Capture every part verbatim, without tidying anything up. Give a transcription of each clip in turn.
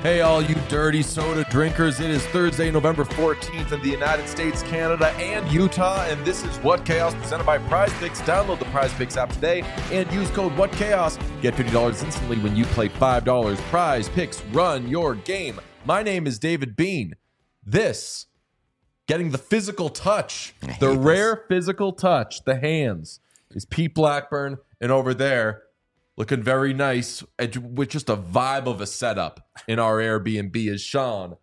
Hey, all you dirty soda drinkers. It is Thursday, November fourteenth in the United States, Canada, and Utah, and this is What Chaos presented by Prize Picks. Download the Prize Picks app today and use code What Chaos. Get fifty dollars instantly when you play five dollars. Prize Picks, run your game. My name is David Bean. This, getting the physical touch, the rare this. physical touch, the hands, is Pete Blackburn, and over there, looking very nice, with just a vibe of a setup in our Airbnb is Sean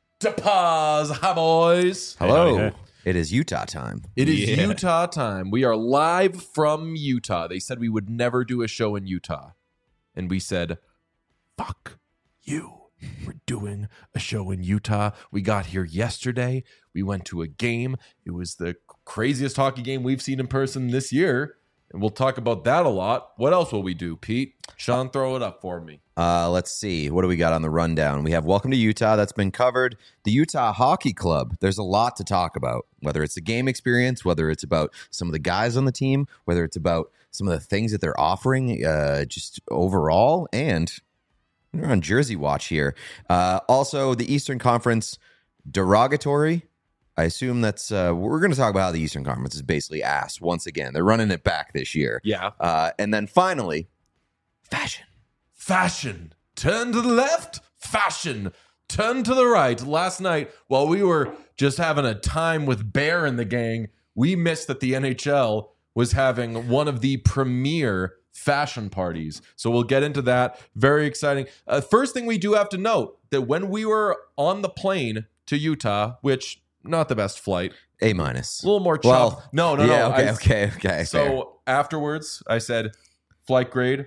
DePaz. Hi, boys. Hello. Hey, hey. It is Utah time. It is Yeah. Utah time. We are live from Utah. They said we would never do a show in Utah. And we said, fuck you. We're doing a show in Utah. We got here yesterday. We went to a game. It was the craziest hockey game we've seen in person this year. And we'll talk about that a lot. What else will we do, Pete? Sean, throw it up for me. Uh, let's see. What do we got on the rundown? We have Welcome to Utah. That's been covered. The Utah Hockey Club. There's a lot to talk about, whether it's the game experience, whether it's about some of the guys on the team, whether it's about some of the things that they're offering uh, just overall. And we're on Jersey watch here. Uh, also, the Eastern Conference derogatory. I assume that's, uh, we're going to talk about how the Eastern Conference is basically ass once again. They're running it back this year. Yeah. Uh, and then finally, fashion. Fashion. Turn to the left. Fashion. Turn to the right. Last night, while we were just having a time with Bear and the gang, we missed that the N H L was having one of the premier fashion parties. So we'll get into that. Very exciting. Uh, first thing we do have to note that when we were on the plane to Utah, which not the best flight, A minus. a little more Well, chopped. no, no, yeah, no. okay, I- okay, okay. So fair. afterwards, I said, flight grade,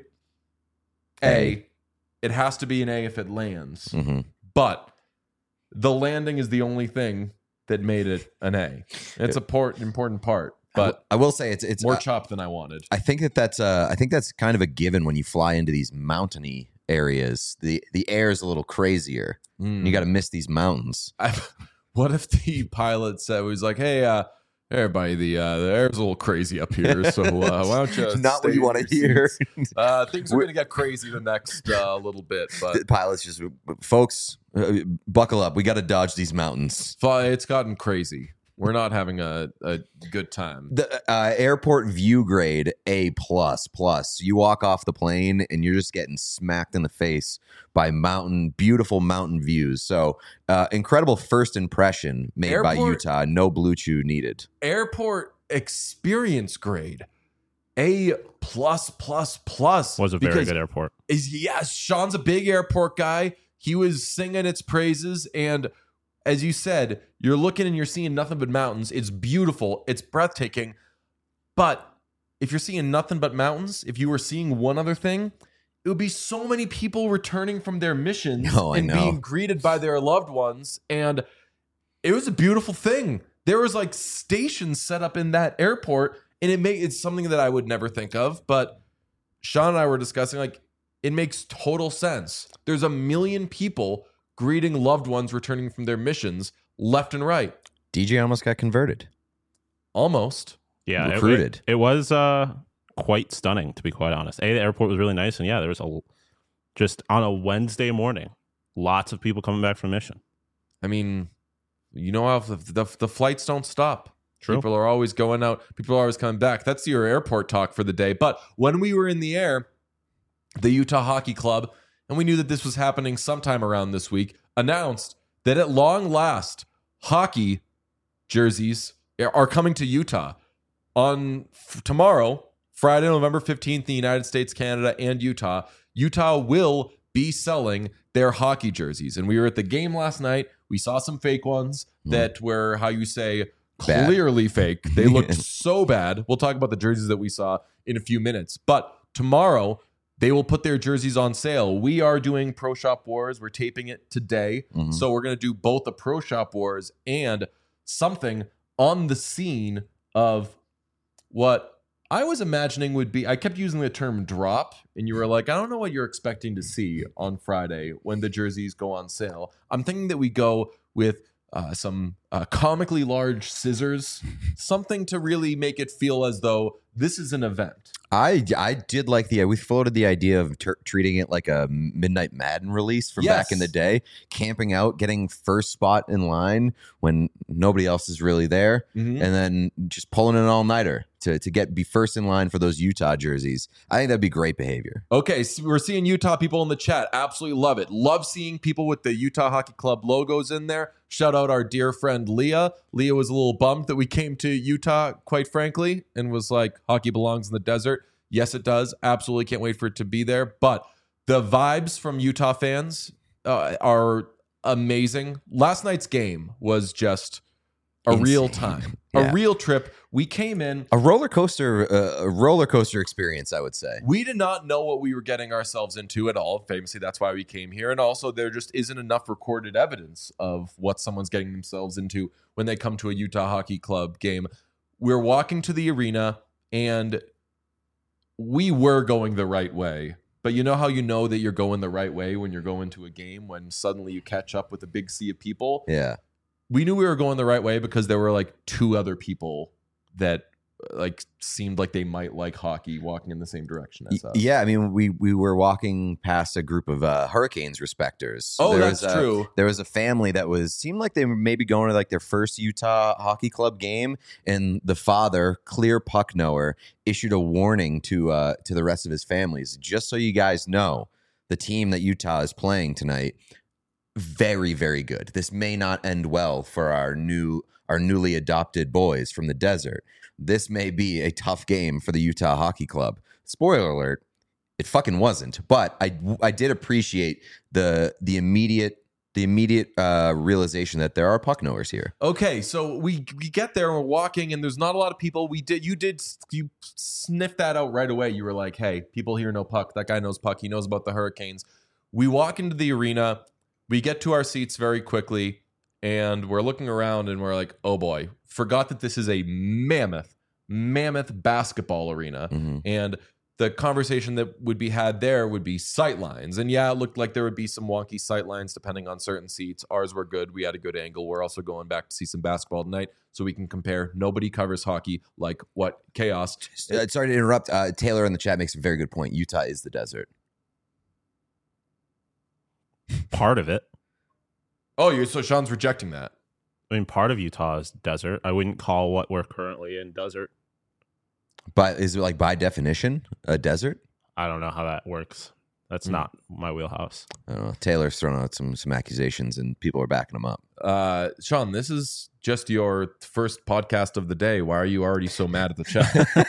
A. A. It has to be an A if it lands. Mhm. But the landing is the only thing that made it an A. It's a port, important part, but I will say it's it's. more uh, chopped than I wanted. I think that that's uh, I think that's kind of a given when you fly into these mountainy areas. The the air is a little crazier. Mm. You got to miss these mountains. I, what if the pilot said, he was like, hey, uh, everybody, the uh, the air's a little crazy up here, so uh, why don't you Not what stay you in want to your hear. seats? Uh, things are going to get crazy the next uh, little bit, but The pilots just, folks, uh, buckle up. We got to dodge these mountains. it's gotten crazy. We're not having a, a good time. The uh, airport view grade A plus plus. You walk off the plane and you're just getting smacked in the face by mountain, beautiful mountain views. So uh, incredible first impression made by Airport- Utah. No Blue Chew needed. Airport experience grade, A plus plus plus. Was a very because good airport. Is yes, Sean's a big airport guy. He was singing its praises, and as you said, you're looking and you're seeing nothing but mountains. It's beautiful. It's breathtaking. But if you're seeing nothing but mountains, if you were seeing one other thing, it would be so many people returning from their missions Oh, I and know. being greeted by their loved ones. And it was a beautiful thing. There was like stations set up in that airport, and it made it's something that I would never think of. But Sean and I were discussing, like, it makes total sense. There's a million people greeting loved ones returning from their missions left and right. D J almost got converted. Almost. Yeah, it- Recruited. It, it was uh, quite stunning, to be quite honest. A, the airport was really nice, and yeah, there was a just on a Wednesday morning, lots of people coming back from mission. I mean, you know how the, the, the flights don't stop. True. People are always going out. People are always coming back. That's your airport talk for the day. But when we were in the air, the Utah Hockey Club, and we knew that this was happening sometime around this week, announced that at long last, hockey jerseys are coming to Utah. On f- tomorrow, Friday, November fifteenth, in the United States, Canada, and Utah, Utah will be selling their hockey jerseys. And we were at the game last night. We saw some fake ones that were, how you say, Bad. clearly fake. They looked so bad. We'll talk about the jerseys that we saw in a few minutes. But tomorrow, they will put their jerseys on sale. We are doing Pro Shop Wars. We're taping it today. Mhm. So we're going to do both the Pro Shop Wars and something on the scene of what I was imagining would be, I kept using the term drop, and you were like, I don't know what you're expecting to see on Friday when the jerseys go on sale. I'm thinking that we go with uh, some uh, comically large scissors, something to really make it feel as though this is an event. I, I did like the we floated the idea of ter- treating it like a Midnight Madden release from Yes. back in the day, camping out, getting first spot in line when nobody else is really there, Mhm. and then just pulling an all nighter to to get be first in line for those Utah jerseys. I think that'd be great behavior. Okay, so we're seeing Utah people in the chat. Absolutely love it. Love seeing people with the Utah Hockey Club logos in there. Shout out our dear friend Leah. Leah was a little bummed that we came to Utah, quite frankly, and was like, hockey belongs in the desert. Yes, it does. Absolutely can't wait for it to be there. But the vibes from Utah fans uh, are amazing. Last night's game was just a Insane. real time, Yeah. a real trip. We came in. A roller coaster, uh, a roller coaster experience, I would say. We did not know what we were getting ourselves into at all. Famously, that's why we came here. And also, there just isn't enough recorded evidence of what someone's getting themselves into when they come to a Utah Hockey Club game. We're walking to the arena, and we were going the right way. But you know how you know that you're going the right way when you're going to a game, when suddenly you catch up with a big sea of people? Yeah. We knew we were going the right way because there were like two other people that like seemed like they might like hockey walking in the same direction as us. Yeah, I mean, we we were walking past a group of uh, Hurricanes respecters. Oh, There that's was a- true. There was a family that was seemed like they were maybe going to like their first Utah Hockey Club game, and the father, clear puck knower, issued a warning to uh, to the rest of his families. Just so you guys know, the team that Utah is playing tonight, very very good. This may not end well for our new our newly adopted boys from the desert. This may be a tough game for the Utah Hockey Club. Spoiler alert, it fucking wasn't. But I I did appreciate the the immediate the immediate uh, realization that there are puck knowers here. Okay, so we we get there and we're walking, and there's not a lot of people. We did you did you sniff that out right away. You were like, hey, people here know puck. That guy knows puck. He knows about the Hurricanes. We walk into the arena. We get to our seats very quickly, and we're looking around, and we're like, oh boy, forgot that this is a mammoth, mammoth basketball arena. Mhm. And the conversation that would be had there would be sight lines. And yeah, it looked like there would be some wonky sight lines depending on certain seats. Ours were good. We had a good angle. We're also going back to see some basketball tonight so we can compare. Nobody covers hockey like what Chaos. Uh, sorry to interrupt. Uh, Taylor in the chat makes a very good point. Utah is the desert. Part of it. Oh, you're so Sean's rejecting that. I mean, part of Utah is desert. I wouldn't call what we're currently in desert. But is it like by definition a desert? I don't know how that works. That's Mm. not my wheelhouse. I don't know. Taylor's thrown out some some accusations, and people are backing him up. Uh, Sean, this is just your first podcast of the day. Why are you already so mad at the chat?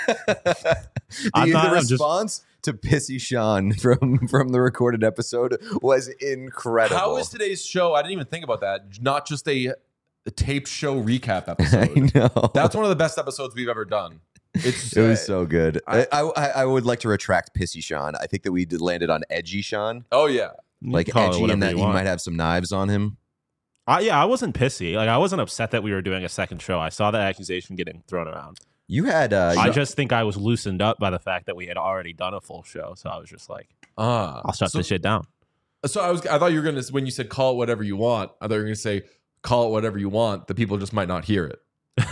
the I'm not- the I'm just- response to Pissy Sean from from the recorded episode was incredible. How is today's show? I didn't even think about that. Not just a, a taped show recap I episode. know. That's one of the best episodes we've ever done. It's It was uh, so good. I- I, I I would like to retract Pissy Sean. I think that we did landed on edgy Sean, oh yeah. You like can call it edgy, whatever and that you he want. might have some knives on him. I, yeah, I wasn't pissy. Like I wasn't upset that we were doing a second show. I saw that accusation getting thrown around. You had uh, I you- just think I was loosened up by the fact that we had already done a full show. So I was just like, Ah, I'll shut so, this shit down. So I was. I thought you were gonna when you said call it whatever you want. I thought you were gonna say call it whatever you want. The people just might not hear it.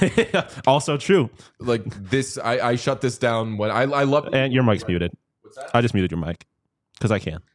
Also true. Like this, I, I shut this down when I I love. And your mic's muted. What's that? I just muted your mic because I can.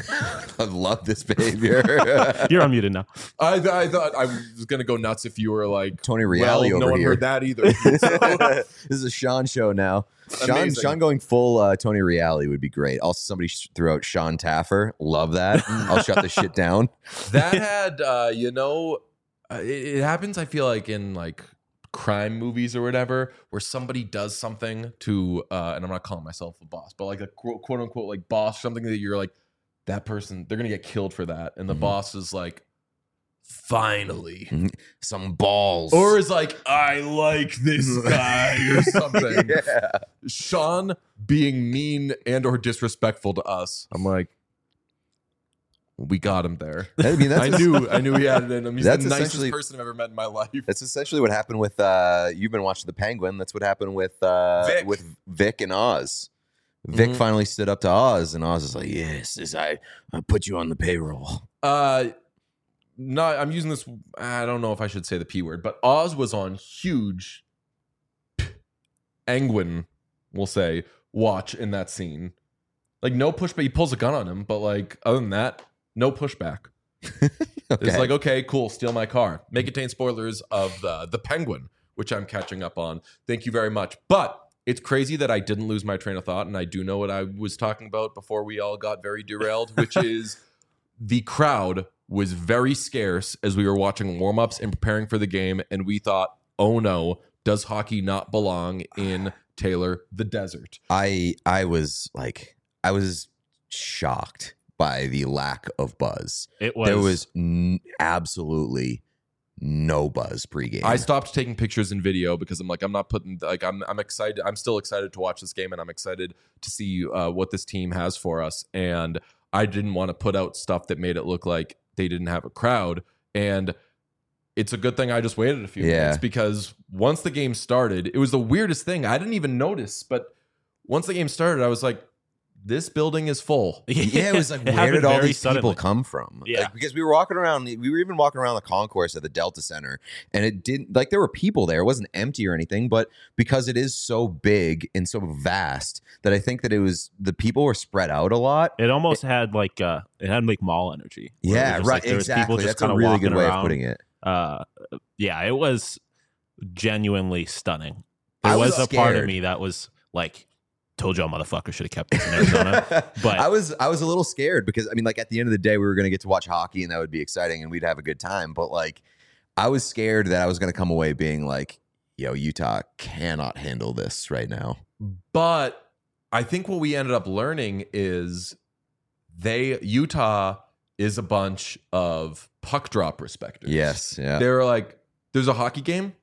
I love this behavior. You're unmuted now. I, I thought I was gonna go nuts if you were like Tony well, Reale no over one here. heard that either. So, This is a Sean show now. Sean, Amazing. Sean going full uh, Tony Reale would be great. Also, somebody sh- threw out Sean Taffer. Love that. I'll shut this shit down. that had uh, you know, uh, it, it happens. I feel like in like crime movies or whatever, where somebody does something to, uh, and I'm not calling myself a boss, but like a quote, quote unquote like boss, something that you're like, that person, they're gonna get killed for that, and the Mhm. boss is like, finally. Some balls. Or is like, I like this guy or something. Yeah. Sean being mean and or disrespectful to us. I'm like, we got him there. I mean, that's I knew I knew he had it in him. He's That's the nicest essentially- person I've ever met in my life. That's essentially what happened with. Uh, you've been watching The Penguin. That's what happened with uh, Vic. with Vic and Oz. Vic Mhm. finally stood up to Oz, and Oz is like, "Yes, this, I I put you on the payroll." Uh not I'm using this, I don't know if I should say the P word, but Oz was on huge Angwin, we'll say, watch in that scene. Like no pushback. He pulls a gun on him, but like other than that, no pushback. Okay. It's like, okay, cool, steal my car. May contain spoilers of the the Penguin, which I'm catching up on. Thank you very much. But it's crazy that I didn't lose my train of thought, and I do know what I was talking about before we all got very derailed, which is the crowd was very scarce as we were watching warm-ups and preparing for the game, and we thought, oh no, does hockey not belong in Taylor the Desert? I I was like, I was shocked by the lack of buzz. It was There was n- absolutely no buzz pregame. I stopped taking pictures and video because I'm like, I'm not putting, like, I'm I'm excited. I'm still excited to watch this game, and I'm excited to see uh, what this team has for us. And I didn't want to put out stuff that made it look like they didn't have a crowd. And it's a good thing I just waited a few Yeah. minutes, because once the game started, it was the weirdest thing. I didn't even notice, but once the game started, I was like, this building is full. Yeah, it was like, It where happened did all very these suddenly. people come from? Yeah. Like, because we were walking around, we were even walking around the concourse at the Delta Center, and it didn't, like, there were people there. It wasn't empty or anything, but because it is so big and so vast that I think that it was, the people were spread out a lot. It almost had like uh, it had like mall energy. where it Yeah, was just right. like there was Exactly. people just That's a kinda really walking good way around. of putting it. Uh, yeah, it was genuinely stunning. There I was, was a part of scared. me that was like, told y'all motherfuckers should have kept this in Arizona. But I was I was a little scared because I mean, like, at the end of the day, we were going to get to watch hockey and that would be exciting and we'd have a good time. But like, I was scared that I was going to come away being like, yo, Utah cannot handle this right now. But I think what we ended up learning is they, Utah is a bunch of puck drop respecters. Yes, yeah. They were like, there's a hockey game?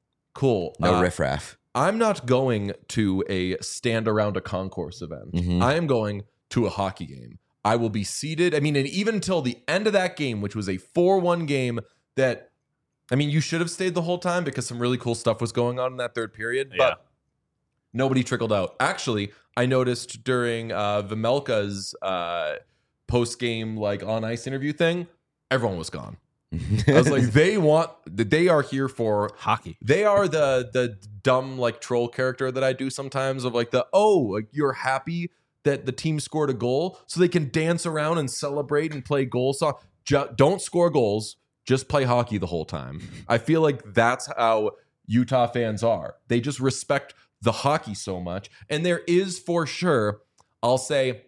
Cool. No Uh, riffraff. I'm not going to a stand around a concourse event. Mhm. I am going to a hockey game. I will be seated. I mean, and even until the end of that game, which was a four one game that, I mean, you should have stayed the whole time because some really cool stuff was going on in that third period. Yeah. But nobody trickled out. Actually, I noticed during uh, Vimelka's uh, post-game, like, on ice interview thing, everyone was gone. I was like, they want, they are here for hockey. They are the the dumb, like, troll character that I do sometimes of like the, oh, like, you're happy that the team scored a goal so they can dance around and celebrate and play goal song. Ju- don't score goals, just play hockey the whole time. I feel like that's how Utah fans are. They just respect the hockey so much. And there is for sure, I'll say,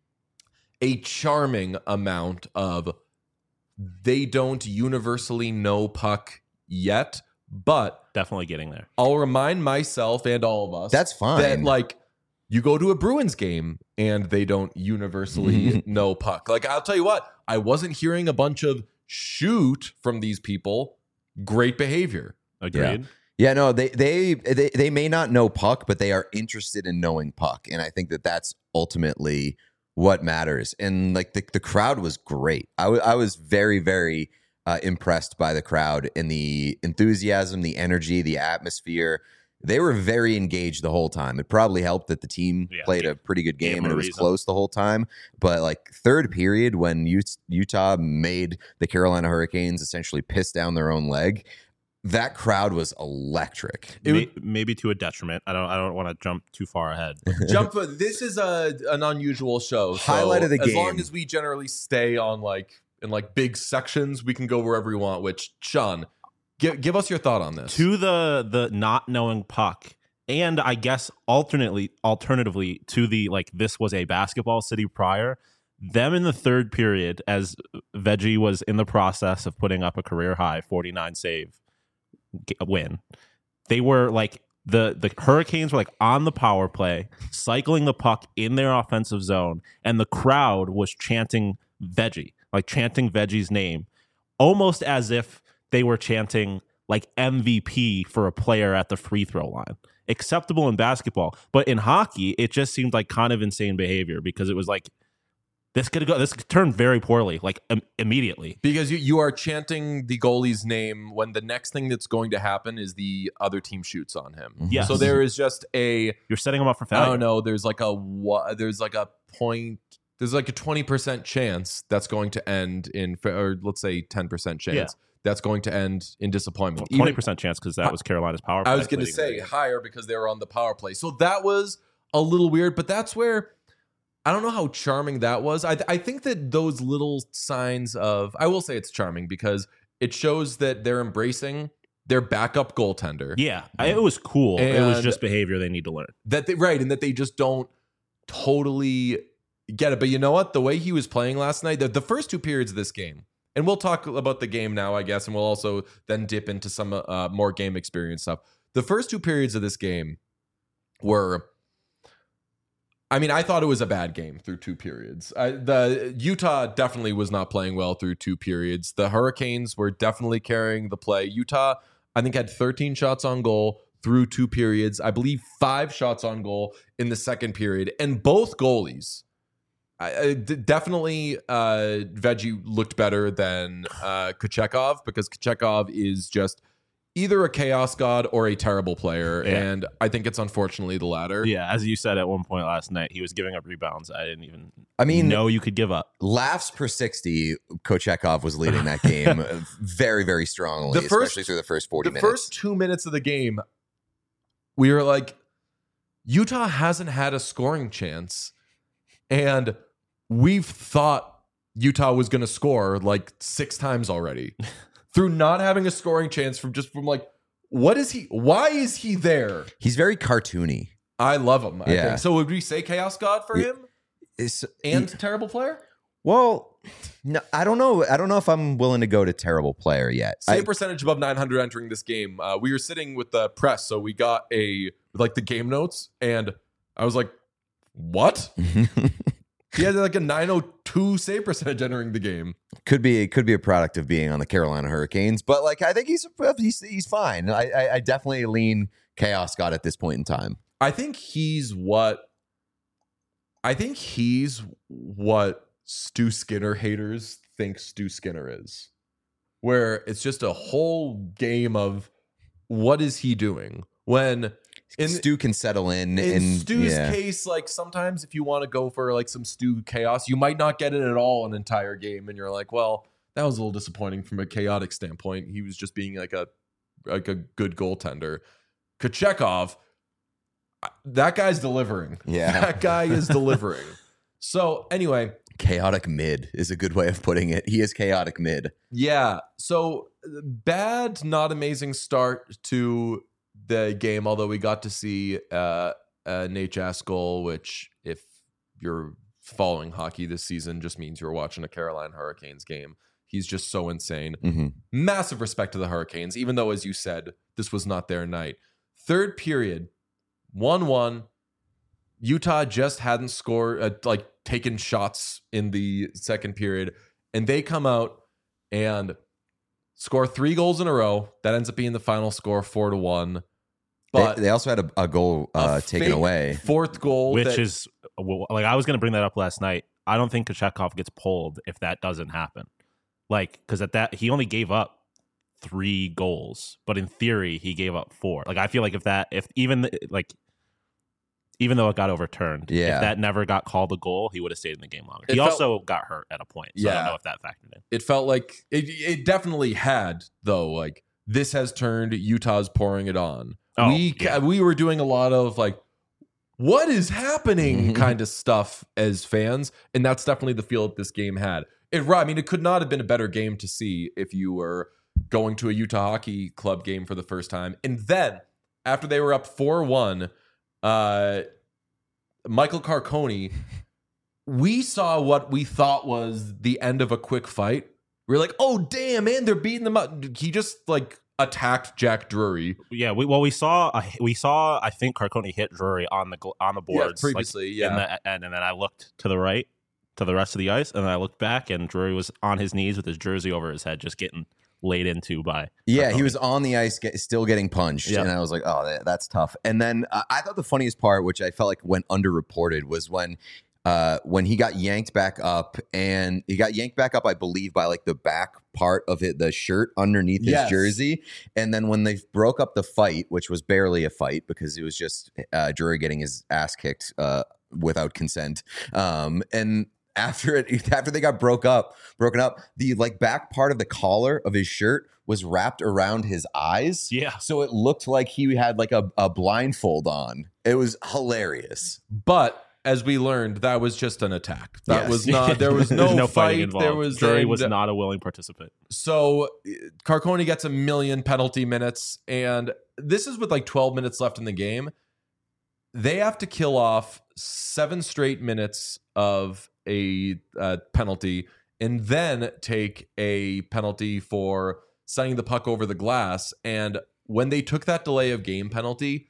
a charming amount of they don't universally know puck yet, but Definitely getting there. I'll remind myself and all of us That's fine. that, like, you go to a Bruins game and they don't universally know puck. Like, I'll tell you what, I wasn't hearing a bunch of shoot from these people. Great behavior. Agreed. Yeah, no, they, they they they may not know puck, but they are interested in knowing puck, and I think that that's ultimately what matters. And like the the crowd was great. I, w- I was very very uh, impressed by the crowd and the enthusiasm, the energy, the atmosphere. They were very engaged the whole time. It probably helped that the team Yeah. played a pretty good Gave game them and a it was reason. close the whole time. But like third period, when Ut- Utah made the Carolina Hurricanes essentially piss down their own leg, that crowd was electric. It May- maybe to a detriment. I don't. I don't want to jump too far ahead. Jump. This is a an unusual show. So Highlight of the as game. long as we generally stay on like in like big sections, we can go wherever we want. Which, Sean, give give us your thought on this. To the the not knowing puck, and I guess alternately alternatively to the like this was a basketball city prior. Them in the third period, as Veggie was in the process of putting up a career high forty-nine save g- win. They were like the the Hurricanes were like on the power play, cycling the puck in their offensive zone, and the crowd was chanting Veggie, like chanting Veggie's name, almost as if they were chanting like M V P for a player at the free throw line. Acceptable in basketball, but in hockey, it just seemed like kind of insane behavior because it was like this could go. This could turn very poorly, like im- immediately. Because you, you are chanting the goalie's name when the next thing that's going to happen is the other team shoots on him. Yes. So there is just a, You're setting them up for I failure. don't know, there's like a wa- there's like a point there's like a twenty percent chance that's going to end in, or let's say ten percent chance Yeah. that's going to end in disappointment. twenty percent chance because that was Carolina's power play. I was going to say higher because they were on the power play. So that was a little weird, but that's where I don't know how charming that was. I, I think that those little signs of, I will say it's charming because it shows that they're embracing their backup goaltender. Yeah, I- it was cool. It was And- just behavior they need to learn. That they, right, and that they just don't totally get it. But you know what? The way he was playing last night, the, the first two periods of this game, and we'll talk about the game now, I guess, and we'll also then dip into some uh, more game experience stuff. The first two periods of this game were, I mean, I thought it was a bad game through two periods. I, the Utah definitely was not playing well through two periods. The Hurricanes were definitely carrying the play. Utah, I think, had thirteen shots on goal through two periods. I believe five shots on goal in the second period. And both goalies, I, I- d- definitely uh, Veggie looked better than uh, Kochekov because Kochekov is just either a chaos god or a terrible player. Yeah. And I think it's unfortunately the latter. Yeah, as you said at one point last night, he was giving up rebounds. I didn't even I mean, know you could give up. laughs per sixty, Kochekov was leading that game very, very strongly, The first- especially through the first forty the minutes. first two minutes of the game, we were like, Utah hasn't had a scoring chance. And we've thought Utah was going to score like six times already through not having a scoring chance from just from like, what is he? Why is he there? He's very cartoony. I love him. I Yeah. think. So would we say Chaos God for Yeah. him It's, and he- terrible player? well, no, I don't know. I don't know if I'm willing to go to terrible player yet. I- Save percentage above nine hundred entering this game. Uh, we were sitting with the press, so we got a like the game notes, and I was like, "What?" He had like a nine oh two save percentage entering the game. could be could be a product of being on the Carolina Hurricanes, but like I think he's he's, he's fine. I, I I definitely lean Chaos God at this point in time. I think he's what. I think he's what Stu Skinner haters think Stu Skinner is, where it's just a whole game of what is he doing when. In, Stu can settle in. in and Stu's yeah. case, like sometimes if you want to go for like some Stu chaos, you might not get it at all an entire game, and you're like, well, that was a little disappointing from a chaotic standpoint. He was just being like a like a good goaltender. Kochekov, that guy's delivering. Yeah. That guy is delivering. So anyway, Chaotic mid is a good way of putting it. He is chaotic mid. yeah. So bad, not amazing start to the game, although we got to see uh, uh, Nate Jaskol, which if you're following hockey this season just means you're watching a Carolina Hurricanes game. He's just so insane. Mm-hmm. Massive respect to the Hurricanes, even though, as you said, this was not their night. Third period, one one. Utah just hadn't scored, uh, like taken shots in the second period, and they come out and score three goals in a row. That ends up being the final score, four to one. But they, they also had a, a goal uh, a taken fake away. fourth goal, Which that- is well, like I was going to bring that up last night. I don't think Kochekov gets pulled if that doesn't happen. Like because at that he only gave up three goals, but in theory he gave up four. Like I feel like if that if even like even though it got overturned, Yeah. if that never got called a goal, he would have stayed in the game longer. It he felt- also got hurt at a point, so I Yeah. don't know if that factored in. it felt like it, it definitely had, though. Like this has turned Utah's pouring it on. Oh, we yeah. we were doing a lot of like, what is happening kind of stuff as fans, and that's definitely the feel that this game had. It, I mean, it could not have been a better game to see if you were going to a Utah Hockey Club game for the first time. And then after they were up four one, uh, Michael Carconi, we saw what we thought was the end of a quick fight. We are like, oh damn, man, they're beating them up. He just like attacked Jack Drury. Yeah, we, well, we saw uh, we saw I think Carconi hit Drury on the gl- on the boards like, previously, in yeah. the- and, and then I looked to the right to the rest of the ice, and then I looked back, and Drury was on his knees with his jersey over his head, just getting laid into by. Yeah, Carconi. he was on the ice, get, still getting punched, Yep. and I was like, "Oh, that, that's tough." And then uh, I thought the funniest part, which I felt like went underreported, was when uh, when he got yanked back up, and he got yanked back up, I believe, by like the back part of it, the shirt underneath his Yes. jersey. And then when they broke up the fight, which was barely a fight because it was just uh, Drury getting his ass kicked uh, without consent, um, and after it after they got broke up, broken up, the like back part of the collar of his shirt was wrapped around his eyes. Yeah. So it looked like he had like a, a blindfold on. It was hilarious. But as we learned, that was just an attack. That Yes. was not. There was no, no fight. fighting involved. There was Drury and- was not a willing participant. So Carcone gets a million penalty minutes, and this is with like twelve minutes left in the game. They have to kill off seven straight minutes of a uh, penalty, and then take a penalty for sending the puck over the glass. And when they took that delay of game penalty,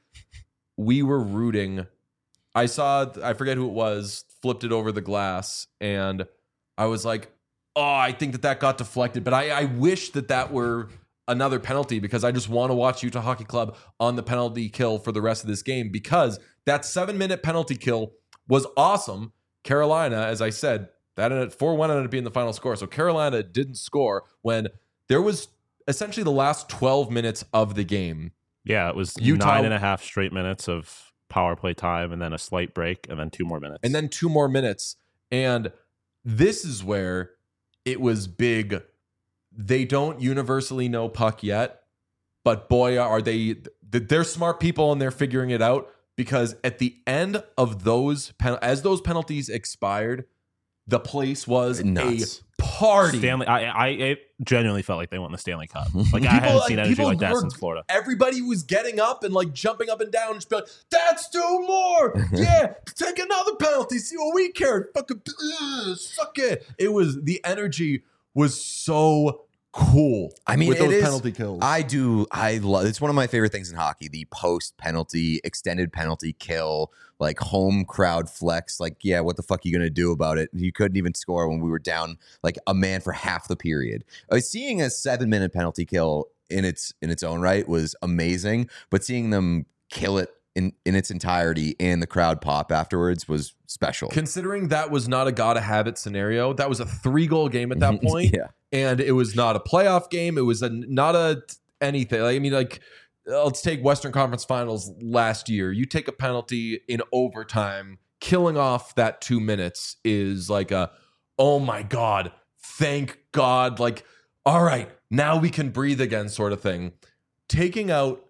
we were rooting. I saw, I forget who it was, flipped it over the glass, and I was like, oh, I think that that got deflected. But I, I wish that that were another penalty, because I just want to watch Utah Hockey Club on the penalty kill for the rest of this game, because that seven-minute penalty kill was awesome. Carolina, as I said, that ended four one ended up being the final score. So Carolina didn't score when there was essentially the last twelve minutes of the game. Yeah, it was Utah- nine and a half straight minutes of power play time, and then a slight break, and then two more minutes. And then two more minutes. And this is where it was big. They don't universally know puck yet, but boy, are they, they're smart people and they're figuring it out, because at the end of those, pen, as those penalties expired, the place was Nuts. a party. Stanley, I, I, I genuinely felt like they won the Stanley Cup. Like I People, hadn't like, seen energy people like that were- since Florida. Everybody was getting up and like jumping up and down and just be like, that's two more. Yeah, take another penalty. See what we care. Fucking ugh, suck it. It was, the energy was so cool. I mean, with it those is- penalty kills. I do. I love. It's one of my favorite things in hockey: the post penalty, extended penalty kill, like home crowd flex. Like, yeah, what the fuck are you gonna do about it? You couldn't even score when we were down like a man for half the period. Uh, seeing a seven minute penalty kill in its in its own right was amazing, but seeing them kill it in in its entirety and the crowd pop afterwards was special. Considering that was not a gotta have it scenario, that was a three goal game at that point. Yeah. And it was not a playoff game. It was a, not a anything. Like, I mean, like, let's take Western Conference Finals last year. You take a penalty in overtime, killing off that two minutes is like a, oh my God, thank God. Like, all right, now we can breathe again sort of thing. Taking out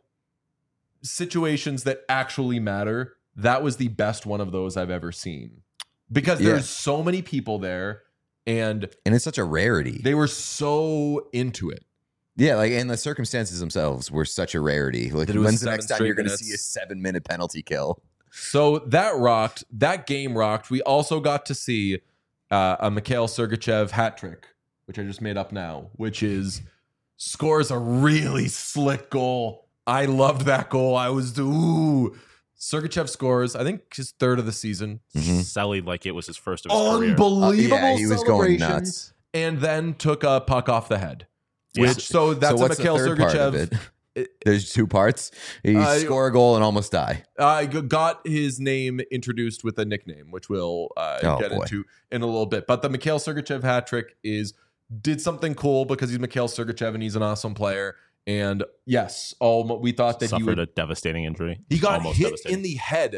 situations that actually matter, that was the best one of those I've ever seen. Because Yeah. there's so many people there, and And it's such a rarity. they were so into it. Yeah, like, and the circumstances themselves were such a rarity. Like, That it was when's the seven next time straight you're going to minutes. see a seven minute penalty kill? So that rocked. That game rocked. We also got to see uh, a Mikhail Sergachev hat trick, which I just made up now, which is scores a really slick goal. I loved that goal. I was, ooh. Sergachev scores, I think, his third of the season. Mhm. Sellied like it was his first of his career. Unbelievable Uh, yeah, he was going celebration, nuts. and then took a puck off the head. Yeah. Which so that's so a what's Mikhail the third part of Sergachev. it? It- There's two parts. You Uh, score a goal and almost die. I g- got his name introduced with a nickname, which we'll uh, Oh, get boy. into in a little bit. But the Mikhail Sergachev hat trick is did something cool because he's Mikhail Sergachev and he's an awesome player. And yes, all we thought that he Suffered would. a devastating injury. He got Almost hit devastating. in the head,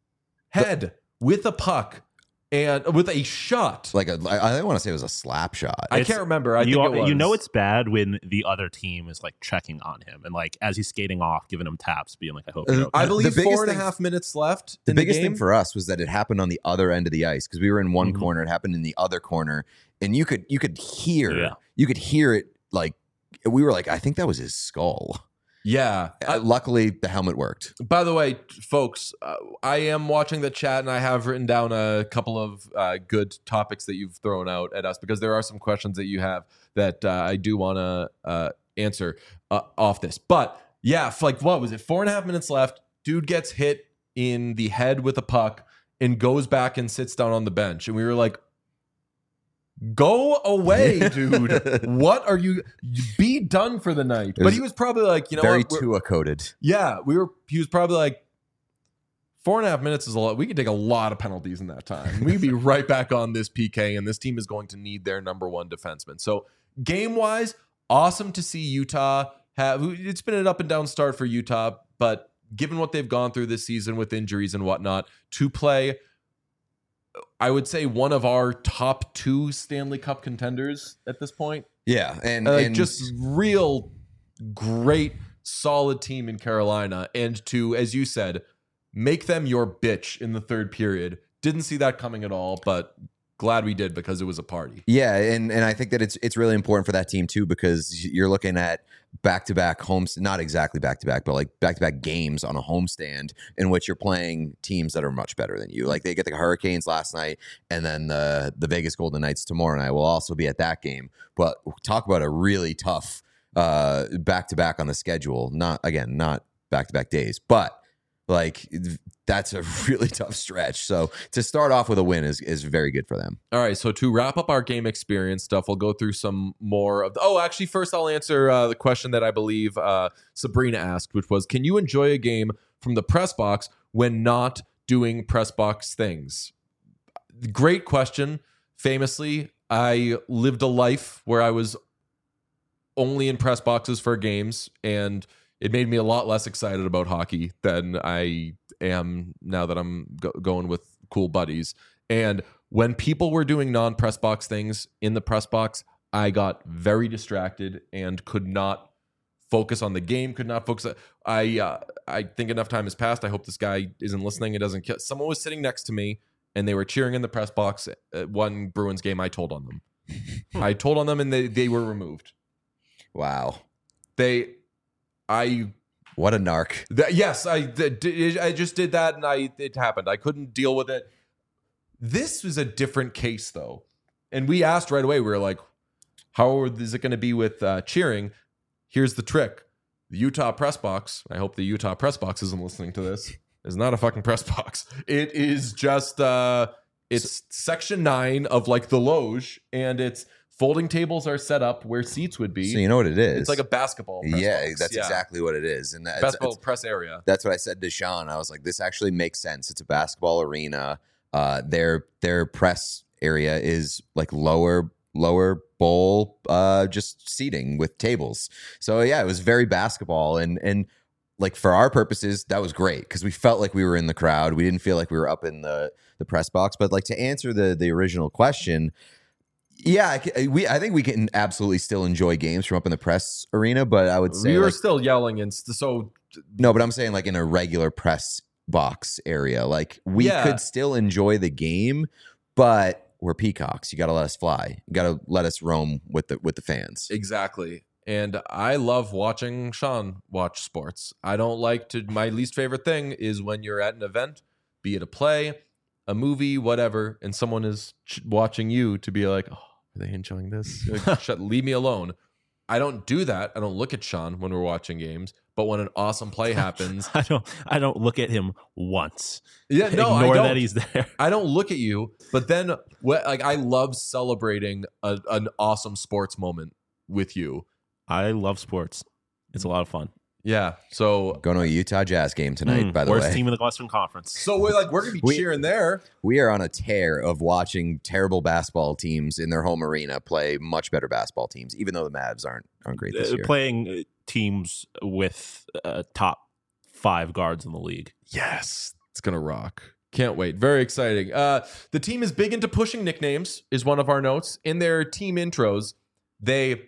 head with a puck and with a shot. Like a, I, I want to say it was a slap shot. I It's- can't remember. I you, think al- it was. you know it's bad when the other team is like checking on him and like as he's skating off, giving him taps, being like, "I hope." Uh, You're okay. I The believe biggest four and a thing- half minutes left. the in biggest the game. thing for us was that it happened on the other end of the ice because we were in one Mhm. corner. It happened in the other corner, and you could you could hear Yeah. you could hear it. Like, we were like, I think that was his skull. yeah. Uh, luckily, the helmet worked. By the way, folks, uh, I am watching the chat and I have written down a couple of uh, good topics that you've thrown out at us because there are some questions that you have that uh, I do want to uh, answer uh, off this. But yeah, f- like what was it? Four and a half minutes left. Dude gets hit in the head with a puck and goes back and sits down on the bench. And we were like, go away, dude. What are you? Be done for the night. It But was he was probably like, you know Very what? We're- Tua coded. yeah, we were. He was probably like, four and a half minutes is a lot. We could take a lot of penalties in that time. We'd be right back on this P K, and this team is going to need their number one defenseman. So game wise, awesome to see Utah have. It's been an up and down start for Utah, but given what they've gone through this season with injuries and whatnot, to play I would say one of our top two Stanley Cup contenders at this point. Yeah, and, Uh, and just real great, solid team in Carolina. And to, as you said, make them your bitch in the third period. Didn't see that coming at all, but glad we did because it was a party. Yeah, and and I think that it's it's really important for that team too, because you're looking at back-to-back homes, not exactly back-to-back, but like back-to-back games on a homestand in which you're playing teams that are much better than you. Like they get the Hurricanes last night, and then the the Vegas Golden Knights tomorrow night will also be at that game. But talk about a really tough uh, back-to-back on the schedule. Not again, not back-to-back days, but like that's a really tough stretch. So to start off with a win is is very good for them. All right, so to wrap up our game experience stuff, we'll go through some more of the, oh, actually, first I'll answer uh, the question that I believe uh, Sabrina asked, which was, can you enjoy a game from the press box when not doing press box things? Great question. Famously, I lived a life where I was only in press boxes for games, and it made me a lot less excited about hockey than I am now that I'm go- going with cool buddies. And when people were doing non-press box things in the press box, I got very distracted and could not focus on the game, could not focus. I uh, I think enough time has passed. I hope this guy isn't listening. It doesn't kill. Someone was sitting next to me and they were cheering in the press box at one Bruins game. I told on them. I told on them and they, they were removed. Wow. They... I what a narc. Th- yes, I th- I just did that and I it happened. I couldn't deal with it. This was a different case though, and we asked right away. We were like, "How is it going to be with uh, cheering?" Here's the trick: the Utah press box. I hope the Utah press box isn't listening to this. Is not a fucking press box. It is just uh, it's section nine of like the loge, and it's. Folding tables are set up where seats would be. So you know what it is. It's like a basketball press Yeah, box. that's yeah. exactly what it is. And that's, basketball that's, press area. That's what I said to Sean. I was like, this actually makes sense. It's a basketball arena. Uh, their their press area is like lower lower bowl, uh, just seating with tables. So yeah, it was very basketball. And and like for our purposes, that was great because we felt like we were in the crowd. We didn't feel like we were up in the the press box. But like to answer the the original question. Yeah, I, we. I think we can absolutely still enjoy games from up in the press arena, but I would say we were like, still yelling and st- so no. But I'm saying like in a regular press box area, like we Yeah. could still enjoy the game, but we're peacocks. You got to let us fly. You got to let us roam with the with the fans. exactly. And I love watching Sean watch sports. I don't like to. My least favorite thing is when you're at an event, be it a play, a movie, whatever, and someone is ch- watching you to be like, oh, are they enjoying this? Like, shut, leave me alone. I don't do that. I don't look at Sean when we're watching games. But when an awesome play happens, I don't. I don't look at him once. yeah, no, I Ignore don't. that he's there. I don't look at you. But then, what, like, I love celebrating a, an awesome sports moment with you. I love sports. It's a lot of fun. Yeah. So, Going to a Utah Jazz game tonight, Mm, by the worst way. team in the Western Conference. so we're like, we're gonna be We- cheering there. We are on a tear of watching terrible basketball teams in their home arena play much better basketball teams, even though the Mavs aren't aren't great this Uh, year. Playing uh, teams with uh, top five guards in the league. Yes, it's gonna rock. Can't wait. Very exciting. Uh, the team is big into pushing nicknames, is one of our notes. In their team intros, they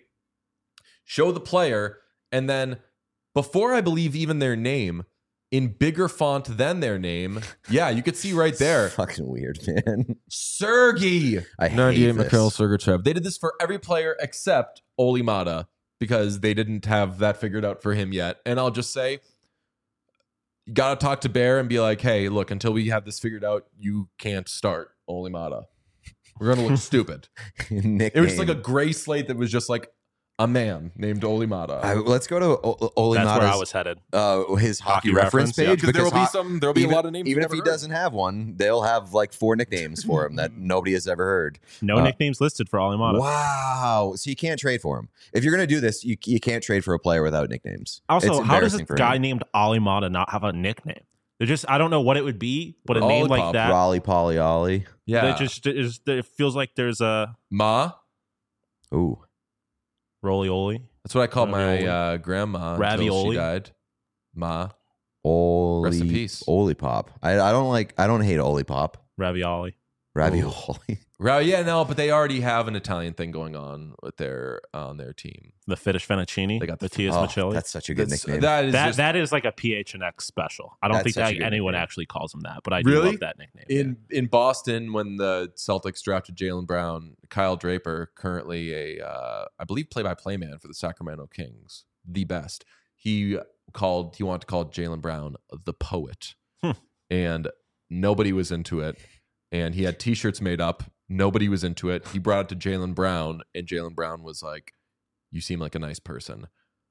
show the player, and then before I believe even their name, in bigger font than their name, yeah, you could see right there, Fucking weird, man. Sergey. I hate ninety-eight this. Mikhail Sergachev. They did this for every player except Oli Mata because they didn't have that figured out for him yet. And I'll just say, you got to talk to Bear and be like, hey, look, until we have this figured out, you can't start Oli Mata. We're going to look stupid. Nickname. It was just like a gray slate that was just like a man named Oli Mata. I, let's go to o- Oli That's where I Mata's, was headed. uh, his hockey, Hockey reference, reference, yeah. page because there will be ho- some, there will be even, a lot of names. even you've if he never heard. doesn't have one, they'll have like four nicknames for him that nobody has ever heard. No Uh, nicknames listed for Alimata. Wow! So you can't trade for him if you're going to do this. You you can't trade for a player without nicknames. Also, It's how does a embarrassing for guy him. named Alimata not have a nickname? They're just I don't know what it would be, but a name like Olipop, that, Raleigh Polly Ollie? Yeah. it just is. It feels like there's a Ma. Ooh, roly oly. That's what I called my Ravioli. uh, grandma until Ravioli. she died. Ma. Oli. Rest in peace. Oli Pop. I I don't like. I don't hate Oli Pop. Ravioli. Ravioli. Right, yeah, no, but they already have an Italian thing going on with their on their team. The Finnish fettuccine. They got the- Mattias Oh, Michelli. that's such a good That's- nickname. That is that just, that is like a P H N X special. I don't That's think such a that good anyone nickname. actually calls him that, but I do Really? love that nickname. in in Boston when the Celtics drafted Jaylen Brown. Kyle Draper, currently a uh, I believe play-by-play man for the Sacramento Kings, the best. He called he wanted to call Jaylen Brown the poet, Hmm. and nobody was into it. And he had T-shirts made up. Nobody was into it. He brought it to Jaylen Brown, and Jaylen Brown was like, "You seem like a nice person."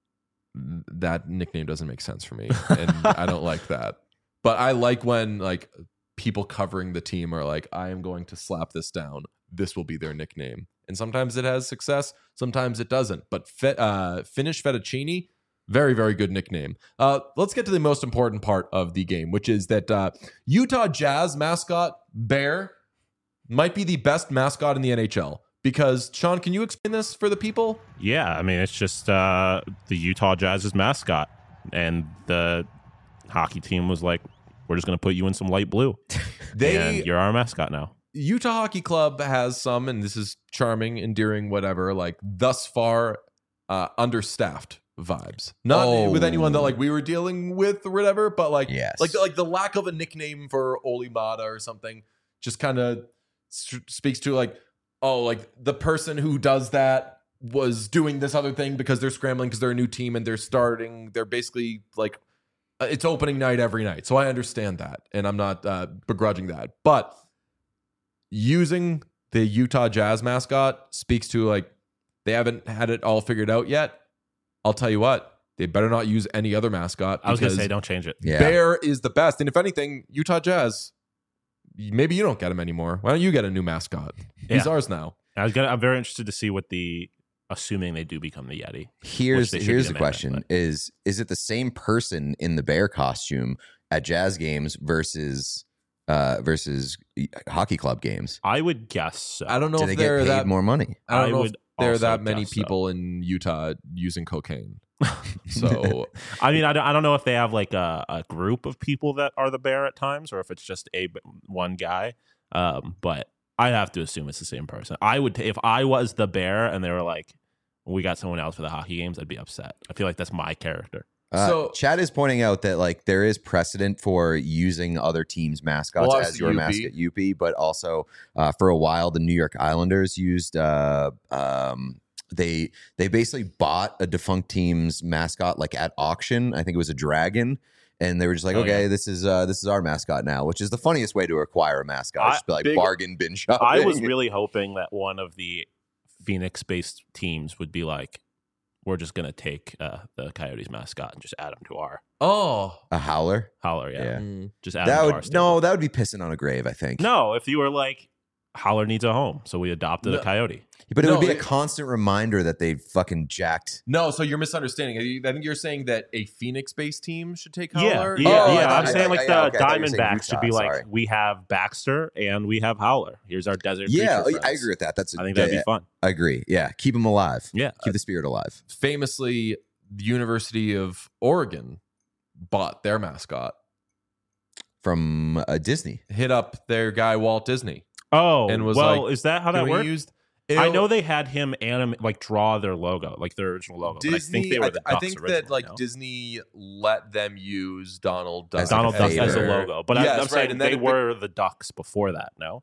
That nickname doesn't make sense for me, and I don't like that. But I like when like people covering the team are like, "I am going to slap this down. This will be their nickname." And sometimes it has success, sometimes it doesn't. But fe- uh, Finnish fettuccine, very, very good nickname. Uh, let's get to the most important part of the game, which is that uh, Utah Jazz mascot Bear might be the best mascot in the N H L. Because, Sean, can you explain this for the people? Yeah, I mean, it's just uh, the Utah Jazz's mascot. And the hockey team was like, we're just going to put you in some light blue. They and you're our mascot now. Utah Hockey Club has some, and this is charming, endearing, whatever, like thus far uh, understaffed vibes. Not Oh. with anyone that like we were dealing with or whatever, but like Yes. like like the lack of a nickname for Oli Mata or something just kind of s- speaks to like, oh, like the person who does that was doing this other thing because they're scrambling because they're a new team and they're starting. They're basically like uh, it's opening night every night, so I understand that, and I'm not uh, begrudging that, but using the Utah Jazz mascot speaks to like they haven't had it all figured out yet. I'll tell you what, they better not use any other mascot. I was going to because say, don't change it. Yeah. Bear is the best. And if anything, Utah Jazz, maybe you don't get him anymore. Why don't you get a new mascot? He's Yeah. ours now. I was gonna, I'm very interested to see what the, assuming they do become the Yeti. Here's they should here's be the the main question: event, is is it the same person in the bear costume at Jazz games versus uh, versus hockey club games? I would guess so. I don't know Do if they they're get paid that more money? I don't I know would if there are also that many guess so. people in Utah using cocaine. So I mean, I don't, I don't know if they have like a, a group of people that are the bear at times, or if it's just a one guy. Um, but I have to assume it's the same person. I would, if I was the bear and they were like, "We got someone else for the hockey games," I'd be upset. I feel like that's my character. Uh, So- Chad is pointing out that like there is precedent for using other teams' mascots Well, as obviously your U P. mascot, U P, but also uh, for a while the New York Islanders used. Uh, um, they they basically bought a defunct team's mascot like at auction. I think it was a dragon, and they were just like, Oh, okay, yeah. this is uh, this is our mascot now, which is the funniest way to acquire a mascot. I- just be like big- bargain bin shopping. I was really hoping that one of the Phoenix-based teams would be like, "We're just gonna take uh, the Coyotes mascot and just add him to our oh, a howler. howler." Yeah, Yeah. Mm. just add That him to our would stable. no, that would be pissing on a grave. I think. No, if you were like, Howler needs a home, so we adopted No. a coyote. But it No, would be a it- constant reminder that they fucking jacked. No, so you're misunderstanding. I think you're saying that a Phoenix-based team should take Yeah, Howler. yeah, Oh, I yeah. thought- I'm I- saying I- like yeah, the okay, I thought you were saying Diamondbacks should be Utah, like, sorry. we have Baxter and we have Howler. Here's our desert. Yeah, creature I friends. agree with that. That's a, I think that'd yeah, be fun. I agree. Yeah, keep them alive. Yeah, Keep the spirit alive. Famously, the University of Oregon bought their mascot, From uh, Disney. hit up their guy Walt Disney, Oh, and was well, like, is that how "Can that we works? used- I It'll- know they had him anim like draw their logo, like their original logo. but I Disney. think they were I, the I Ducks think that originally, like no? Disney let them use Donald Duck As like Donald a Duck as a favor. logo, but I, Yes, I'm right, saying and then they it- were the Ducks before that. No,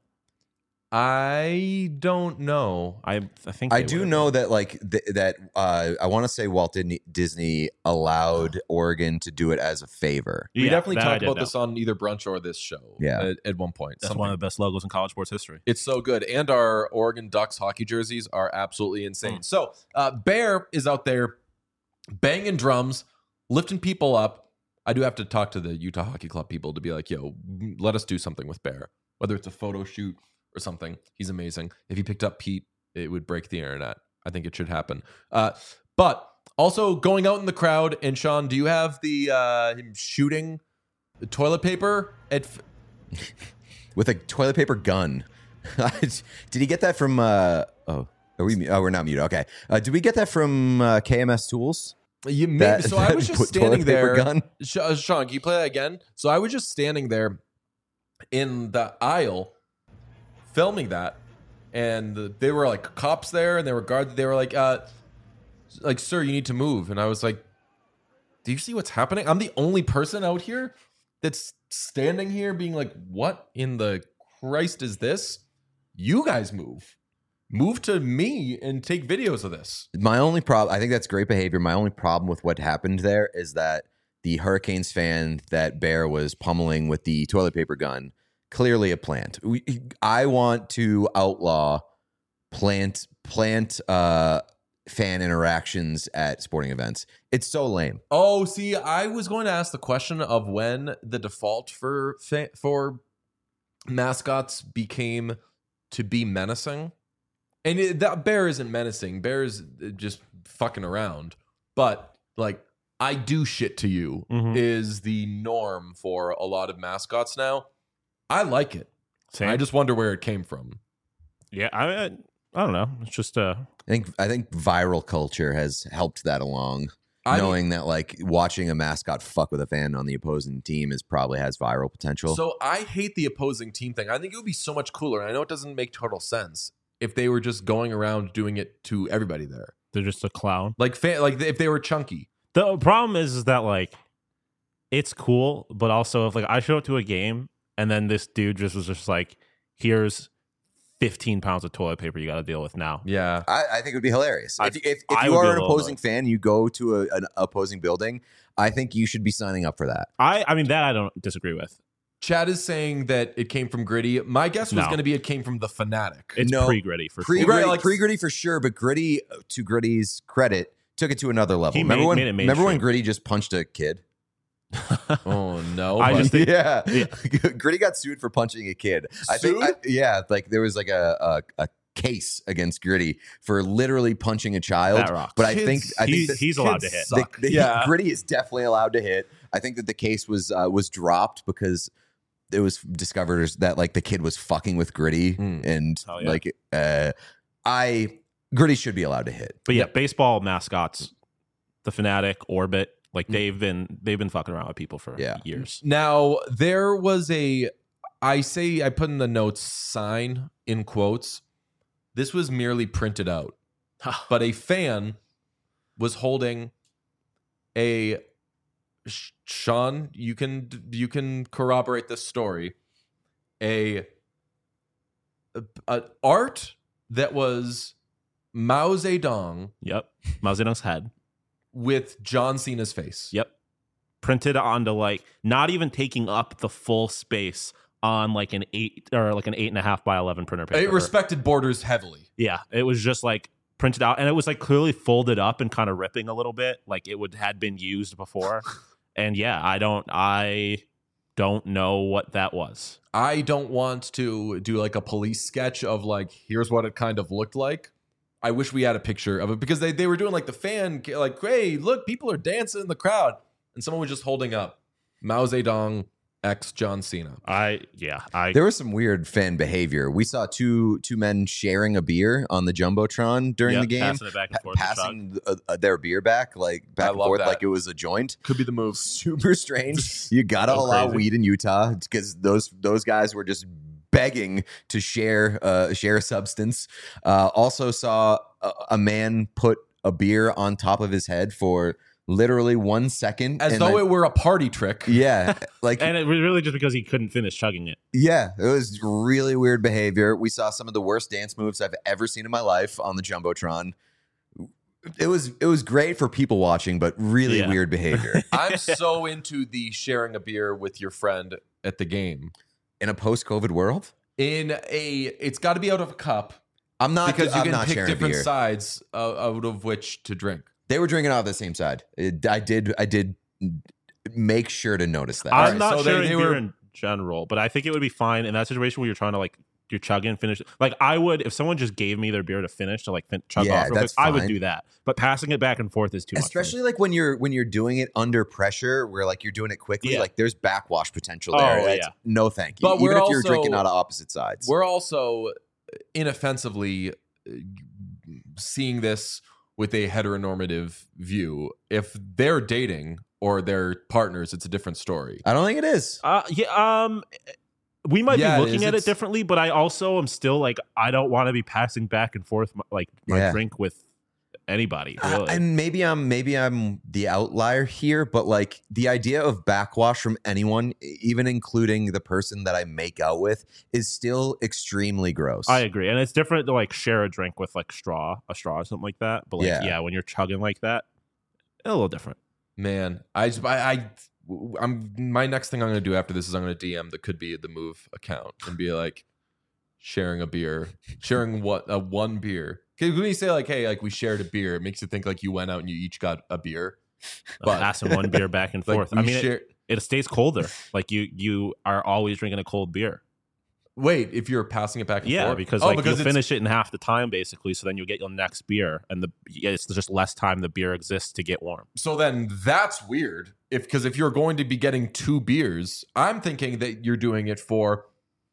I don't know. I I think I they do would've know been. that like th- that uh, I want to say Walt Disney, Disney allowed Oregon to do it as a favor. We Yeah, definitely that I talked did about know. this on either brunch or this show. Yeah. at, at one point. That's Something. one of the best logos in college sports history. It's so good. And our Oregon Ducks hockey jerseys are absolutely insane. Mm. So uh, Bear is out there banging drums, lifting people up. I do have to talk to the Utah Hockey Club people to be like, yo, let us do something with Bear. Whether it's a photo shoot or something. He's amazing. If he picked up Pete, it would break the internet. I think it should happen. Uh, but also going out in the crowd, and Sean, do you have the uh, him shooting the toilet paper at... F- With a toilet paper gun. Did he get that from? Uh, oh, are we? Oh, we're not muted. Okay. Uh, did we get that from uh, K M S Tools? You maybe, That- so I was that just toilet standing paper there. gun? Sh- uh, Sean, can you play that again? So I was just standing there in the aisle, filming that, and the, they were like cops there, and they were guards. They were like, uh, like, sir, you need to move. And I was like, do you see what's happening? I'm the only person out here that's standing here being like, what in the Christ is this? You guys move. Move to me and take videos of this. My only problem, I think that's great behavior. My only problem with what happened there is that the Hurricanes fan that Bear was pummeling with the toilet paper gun, clearly a plant. We, I want to outlaw plant plant uh, fan interactions at sporting events. It's so lame. Oh, see, I was going to ask the question of when the default for fa- for mascots became to be menacing. And it, that Bear isn't menacing. Bear is just fucking around. But, like, I do shit to you Mhm. is the norm for a lot of mascots now. I like it. Same. I just wonder where it came from. yeah, I, I I don't know. It's just uh, I think I think viral culture has helped that along. I- knowing that like watching a mascot fuck with a fan on the opposing team is probably has viral potential. So I hate the opposing team thing. I think it would be so much cooler. And I know it doesn't make total sense if they were just going around doing it to everybody there. they're just a clown. Like, fa- like if they were chunky. The problem is, is that like it's cool, but also if like I show up to a game and then this dude just was just like, here's fifteen pounds of toilet paper you got to deal with now. Yeah. I, I think it would be hilarious. I- if if, if I you would be are a an little opposing annoyed. fan, you go to a, an opposing building, I think you should be signing up for that. I I mean that I don't disagree with. Chad is saying that it came from Gritty. My guess was No. going to be it came from the Fanatic. It's No. pre-gritty for Pre sure. gritty, Right, like- pre gritty for sure, but Gritty, to Gritty's credit, took it to another level. He remember made- when? made it remember when mainstream. Gritty just punched a kid? Oh no! I but- just think- yeah. yeah. Gritty got sued for punching a kid. I think, Sued? I, yeah, like there was like a, a a case against Gritty for literally punching a child. That rocks. But I Kids- think I think He- that he's allowed to kids hit. the, suck. the- Yeah. Gritty is definitely allowed to hit. I think that the case was uh, was dropped because it was discovered that like the kid was fucking with Gritty Mm. and Hell yeah. like uh, I Gritty should be allowed to hit. But yeah, Yep. baseball mascots, the Fanatic, Orbit, like they've been they've been fucking around with people for Yeah. years. Now there was a, I say I put in the notes sign in quotes. This was merely printed out, but a fan was holding a. Sh- Sean, you can you can corroborate this story. A, a, a art that was Mao Zedong Yep, Mao Zedong's head. with John Cena's face. Yep, printed onto like not even taking up the full space on like an eight or like an eight and a half by eleven printer paper. It respected borders heavily. Yeah, it was just like printed out, and it was like clearly folded up and kind of ripping a little bit, like it would had been used before. And yeah, I don't, I don't know what that was. I don't want to do like a police sketch of like, here's what it kind of looked like. I wish we had a picture of it because they, they were doing like the fan, like, hey, look, people are dancing in the crowd. And someone was just holding up Mao Zedong X John Cena. I yeah, I There was some weird fan behavior. We saw two two men sharing a beer on the jumbotron during yep, the game, passing it back and pa- forth. to Chuck. passing uh, uh, their beer back like back I and love forth that. like it was a joint. Could be the move. Super strange. You gotta So allow crazy. weed in Utah because those those guys were just begging to share uh, share substance. Uh, also saw a, a man put a beer on top of his head for literally one second, As and though then- it were a party trick. yeah, like And it was really just because he couldn't finish chugging it. yeah, it was really weird behavior. We saw some of the worst dance moves I've ever seen in my life on the jumbotron. It was it was great for people watching, but really Yeah. weird behavior I'm so into the sharing a beer with your friend at the game. in a post-COVID world. In a, it's got to be out of a cup I'm not because you I'm can not pick sharing different beer. sides uh, out of which to drink. They were drinking off the same side. It, I did I did make sure to notice that. I'm right, not so they- sharing they beer were- in general, but I think it would be fine in that situation where you're trying to like you're chugging and finish. Like I would if someone just gave me their beer to finish to like fin- chug Yeah, off. Real quick, that's I would fine. do that, but passing it back and forth is too much. for me. Especially like when you're when you're doing it under pressure, where like you're doing it quickly, Yeah. like there's backwash potential Oh, there. That's- yeah. No, thank you. But Even we're if you're also- drinking out of opposite sides. We're also inoffensively uh, seeing this with a heteronormative view. If they're dating or they're partners, it's a different story. I don't think it is. Uh, yeah. Um, we might Yeah, be it looking is. at it It's- differently, but I also am still like, I don't want to be passing back and forth my, like my Yeah. drink with anybody. Uh, Really. and maybe I'm maybe I'm the outlier here, but like the idea of backwash from anyone, even including the person that I make out with, is still extremely gross. I agree, and it's different to like share a drink with like straw, a straw or something like that. But like, Yeah. yeah, when you're chugging like that, a little different. Man, I just I, I I'm my next thing I'm gonna do after this is I'm gonna D M the Could Be the Move account and be like sharing a beer, sharing what a one beer. Because when you say like, hey, like we shared a beer, it makes you think like you went out and you each got a beer. But passing one beer back and Like, forth. we I mean, share- it, it stays colder. Like you, you are always drinking a cold beer. Wait, if you're passing it back and Yeah, forth, because oh, like because you it's- finish it in half the time basically, so then you get your next beer, and the yeah, it's just less time the beer exists to get warm. So then that's weird. If because if you're going to be getting two beers, I'm thinking that you're doing it for.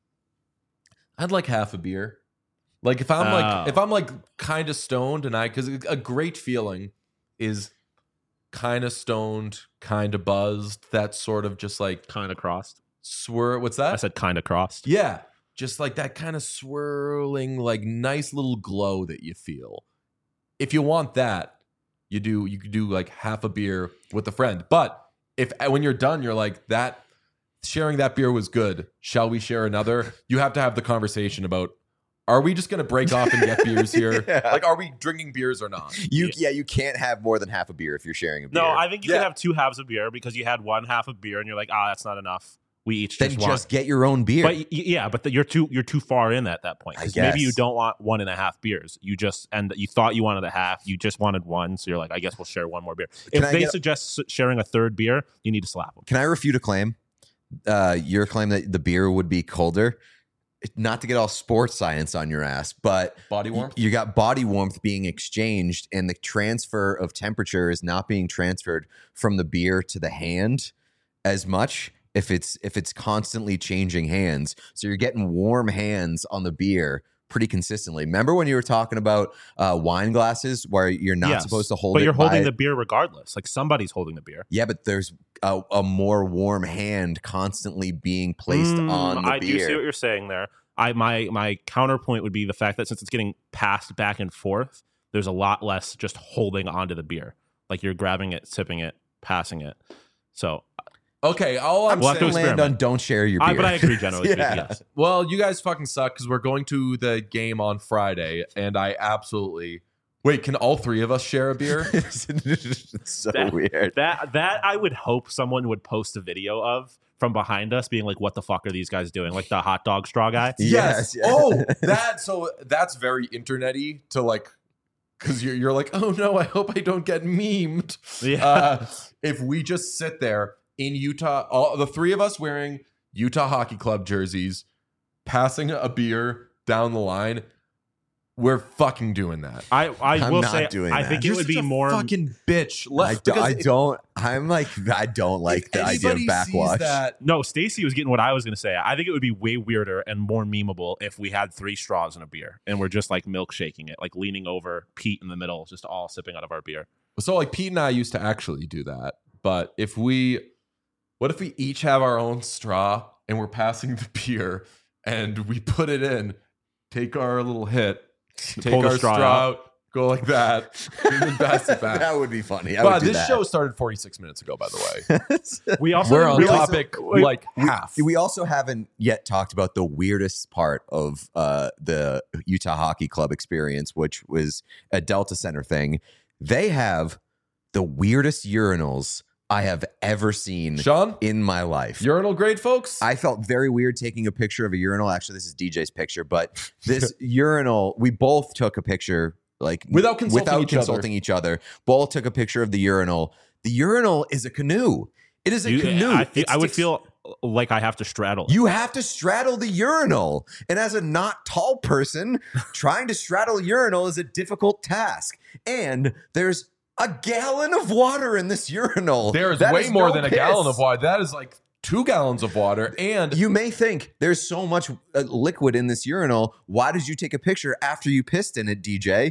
I'd like half a beer. Like if I'm Oh. like if I'm like kind of stoned and I because a great feeling is kind of stoned, kind of buzzed. That sort of just like Kind of crossed. swir. What's I that? said kind of crossed. Yeah, just like that kind of swirling, like nice little glow that you feel. If you want that, you do. You could do like half a beer with a friend. But if when you're done, you're like that. Sharing that beer was good. Shall we share another? You have to have the conversation about. Are we just going to break off and get beers here? Yeah. Like, are we drinking beers or not? you yeah, you can't have more than half a beer if you're sharing a beer. No, I think you Yeah. could have two halves of beer because you had one half of beer, and you're like, ah, that's not enough. We each then just just, want. get your own beer. But y- yeah, but the, you're too you're too far in at that point. I 'Cause maybe you guess. don't want one and a half beers. You just and you thought you wanted a half. You just wanted one, so you're like, I guess we'll share one more beer. Can if I they get- suggest s- sharing a third beer, you need to slap them. Can I refute a claim? Uh, your claim that the beer would be colder. Not to get all sports science on your ass, but Body y- warmth. you got body warmth being exchanged, and the transfer of temperature is not being transferred from the beer to the hand as much. If it's if it's constantly changing hands, so you're getting warm hands on the beer pretty consistently. Remember when you were talking about uh, wine glasses where you're not Yes, supposed to hold but it you're holding by- the beer regardless. Like somebody's holding the beer. Yeah, but there's a, a more warm hand constantly being placed Mm, on the I beer. do see what you're saying there. I my my counterpoint would be the fact that since it's getting passed back and forth, there's a lot less just holding onto the beer. Like you're grabbing it, sipping it, passing it. So, Okay, all I'm We'll have to saying. land experiment. on don't share your beer. I, but I agree generally. Yeah. speaking, yes. Well, you guys fucking suck because we're going to the game on Friday, and I absolutely wait. Can all three of us share a beer? It's so That- weird. That that I would hope someone would post a video of from behind us, being like, "What the fuck are these guys doing?" Like the hot dog straw guy. Yes, yeah. Oh, that. So that's very internety to like, because you're you're like, oh no, I hope I don't get memed. Yeah. Uh, if we just sit there in Utah, all the three of us wearing Utah Hockey Club jerseys, passing a beer down the line, we're fucking doing that. I I I'm will not say doing I that. think You're it would such be a more. fucking bitch. I, Let, do, because I if- don't. I'm like I don't like if the idea of anybody sees backwash. that, No, Stacy was getting what I was going to say. I think it would be way weirder and more memeable if we had three straws in a beer and we're just like milkshaking it, like leaning over, Pete in the middle, just all sipping out of our beer. So like Pete and I used to actually do that. But if we, what if we each have our own straw and we're passing the beer and we put it in, take our little hit, take Pull the our straw, straw out, go like that, and then pass it back. That would be funny. I But would do this that. show started forty-six minutes ago, by the way. We also We're didn't on realize- topic Wait, like half. We also haven't yet talked about the weirdest part of uh, the Utah Hockey Club experience, which was a Delta Center thing. They have the weirdest urinals I have ever seen Sean, in my life. urinal grade, folks. I felt very weird taking a picture of a urinal. Actually, this is D J's picture, but this urinal, we both took a picture like Without consulting without each other. consulting each other. Both took a picture of the urinal. The urinal is a canoe. It is a You- canoe. I, feel, It I would sticks- feel like I have to straddle. it. You have to straddle the urinal. And as a not tall person, trying to straddle a urinal is a difficult task. And there's a gallon of water in this urinal. there is That way more no than a piss. gallon of water. That is like two gallons of water. And You may think there's so much uh, liquid in this urinal. Why did you take a picture after you pissed in it, D J?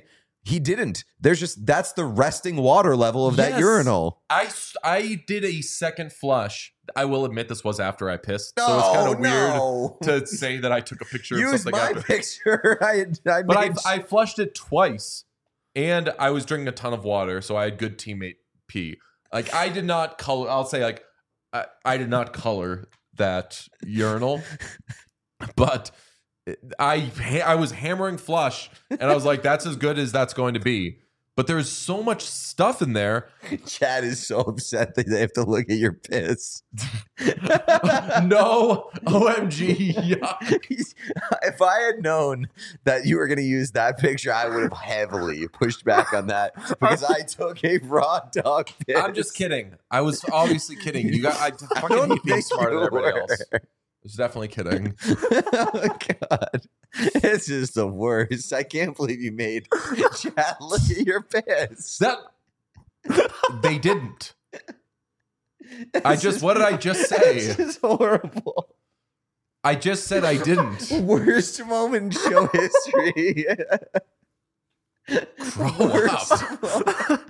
He didn't. There's just that's the resting water level of that Yes. urinal. I, I did a second flush. I will admit this was after I pissed. No, so it's kind of no. weird to say that I took a picture of Use something my after. picture. I, I But I, made- I flushed it twice, and I was drinking a ton of water, so I had good teammate pee. Like, I did not color, I'll say, like, I, I did not color that urinal, but I I was hammering flush, and I was like, that's as good as that's going to be. But there's so much stuff in there. Chad is so upset that they have to look at your piss. No, O M G. Yeah. If I had known that you were going to use that picture, I would have heavily pushed back on that because I took a raw dog piss. I'm just kidding. I was obviously kidding. You got I I fucking don't hate being think smarter than you everybody were. else. I was definitely kidding. Oh, God. It's just the worst. I can't believe you made Chad look at your piss. That they didn't. I It's just what did I just say? It's just horrible. I just said I didn't. Worst moment in show history. Grow Worst up. moment.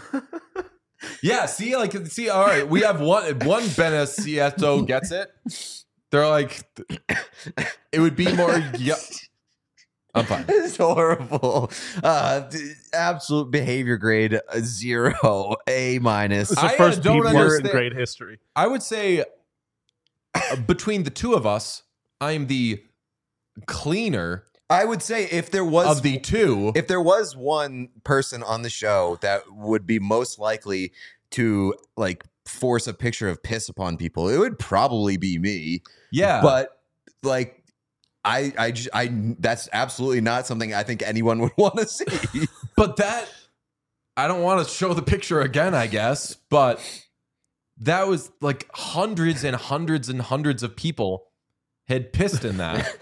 Yeah, see, like, see, all right, we have one one Benacieto gets it. They're like, it would be more. Yeah, I'm fine. It's horrible. Uh, d- absolute behavior grade uh, zero, A minus. It's the I, uh, first don't B word in understand- grade history. I would say uh, between the two of us, I am the cleaner I would say if there was of the two. if there was one person on the show that would be most likely to like force a picture of piss upon people, it would probably be me. Yeah, But like I I j- I that's absolutely not something I think anyone would want to see. But that, I don't want to show the picture again, I guess, but that was like hundreds and hundreds and hundreds of people had pissed in that.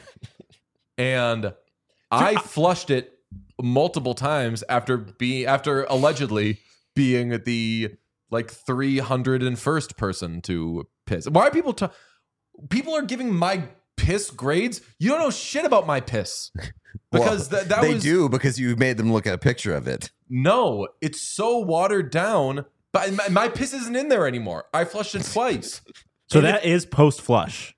And I flushed it multiple times after being, after allegedly being the like three hundred first person to piss. Why are people, ta- people are giving my piss grades? You don't know shit about my piss. Because Well, that, that they was do because you made them look at a picture of it. no, it's so watered down. But my, my piss isn't in there anymore. I flushed it twice. So And that is post flush.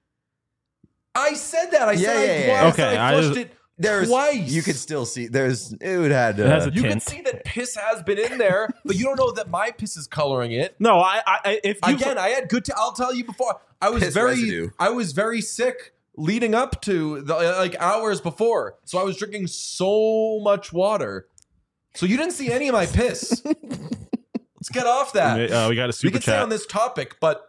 I said that. I Yeah, said yeah, I, yeah. well, I, Okay, said I I flushed just- it There's twice. you could still see there's it would had It has uh, a you can tint. see that piss has been in there, but you don't know that my piss is coloring it. No, I, I if you Again, I had good. T- I'll tell you before. I was Piss very, residue. I was very sick leading up to the like hours before, so I was drinking so much water. So you didn't see any of my piss. Let's get off that. uh, we got a We super can stay chat. on this topic, but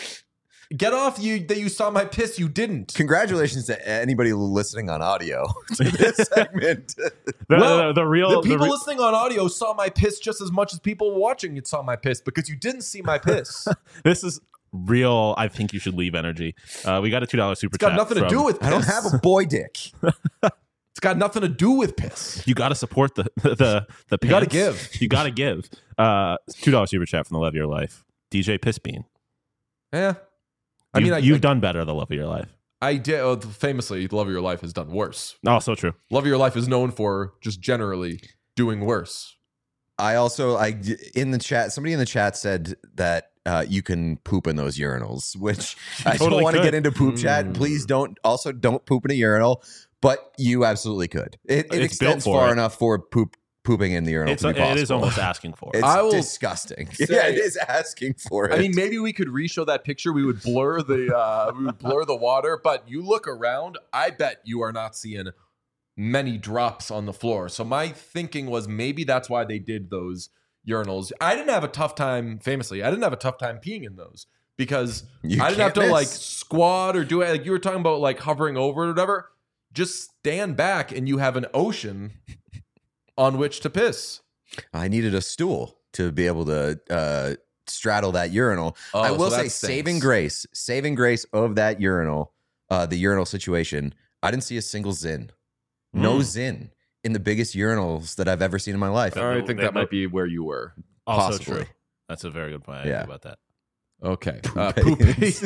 get off you that you saw my piss. You didn't. congratulations to anybody listening on audio to this segment. The, Well, the, the real The the people re- listening on audio saw my piss just as much as people watching it saw my piss because you didn't see my piss. this is real. I think you should leave energy. Uh, we got a two dollar super It's got chat. nothing to from- do with piss. I don't have a boy dick. It's got nothing to do with piss. You got to support the the the. You gotta pants. give. You got to give. Uh, two dollar super chat from the Love of Your Life. D J Pissbean. Yeah. I You, mean, I, you've I, done better. The Love of Your Life. I did. Oh, famously, Love of Your Life has done worse. Oh, so true. Love of Your Life is known for just generally doing worse. I also I in the chat somebody in the chat said that uh, you can poop in those urinals, which I don't totally want to could. get into poop chat. Mm. Please don't also don't poop in a urinal, but you absolutely could. It, it It's built extends for far it. enough for poop pooping in the urinal It's to be possible. it is almost asking for it. It's I will disgusting. say- yeah, it is asking for it. I mean, maybe we could re-show that picture. We would blur the uh, we would blur the water, but you look around. I bet you are not seeing many drops on the floor. So my thinking was maybe that's why they did those urinals. I didn't have a tough time. Famously, I didn't have a tough time peeing in those because You I didn't have to can't like miss. squat or do it. Like you were talking about, like hovering over it or whatever. Just stand back, and you have an ocean on which to piss. I needed a stool to be able to uh, straddle that urinal. Oh, I so will that say, stinks. saving grace, saving grace of that urinal, uh, the urinal situation. I didn't see a single zin, no Mm. zin in the biggest urinals that I've ever seen in my life. I think They that might- might be where you were. Also possibly. true. That's a very good point. I Yeah. agree about that. Okay. Poop Uh, poop aliens.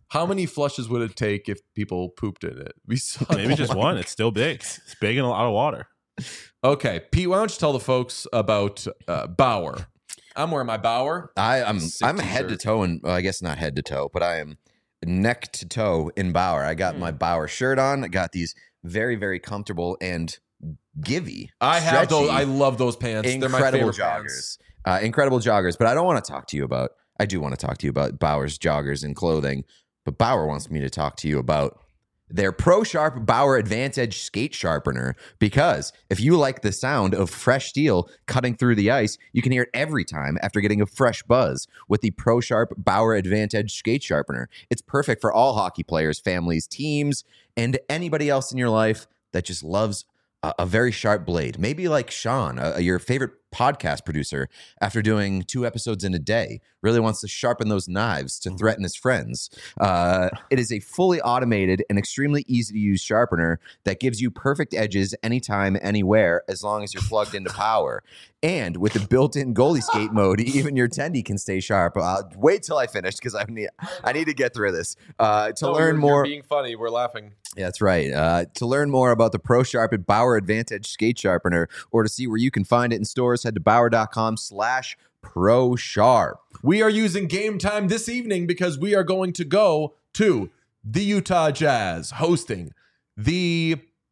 How many flushes would it take if people pooped in it? We saw Maybe just one. It's still big. It's big and a lot of water. Okay, Pete, why don't you tell the folks about uh, Bauer? I'm wearing my Bauer. I, I'm Sick I'm head to t-shirt. toe, and well, I guess not head to toe, but I am neck to toe in Bauer. I got Mm. my Bauer shirt on. I got these very, very comfortable and givey. I have those. stretchy, I love those pants. They're my incredible favorite joggers. pants. Uh, incredible joggers. But I don't want to talk to you about. I do want to talk to you about Bauer's joggers and clothing. But Bauer wants me to talk to you about their Pro Sharp Bauer Advantage skate sharpener, because if you like the sound of fresh steel cutting through the ice, you can hear it every time after getting a fresh buzz with the Pro Sharp Bauer Advantage skate sharpener. It's perfect for all hockey players, families, teams, and anybody else in your life that just loves a, a very sharp blade. Maybe like Sean, uh, your favorite podcast producer, after doing two episodes in a day, really wants to sharpen those knives to threaten his friends. Uh, it is a fully automated and extremely easy to use sharpener that gives you perfect edges anytime, anywhere, as long as you're plugged into power. And with the built-in goalie skate mode, even your tendy can stay sharp. Uh, wait till I finish, because I need I need to get through this. Uh, to No, learn you're, more, you're being funny. We're laughing. yeah, that's right. Uh, to learn more about the Pro Sharp and Bauer Advantage skate sharpener, or to see where you can find it in stores, head to bauer.com slash pro sharp. We are using Game Time this evening because we are going to go to the Utah Jazz hosting the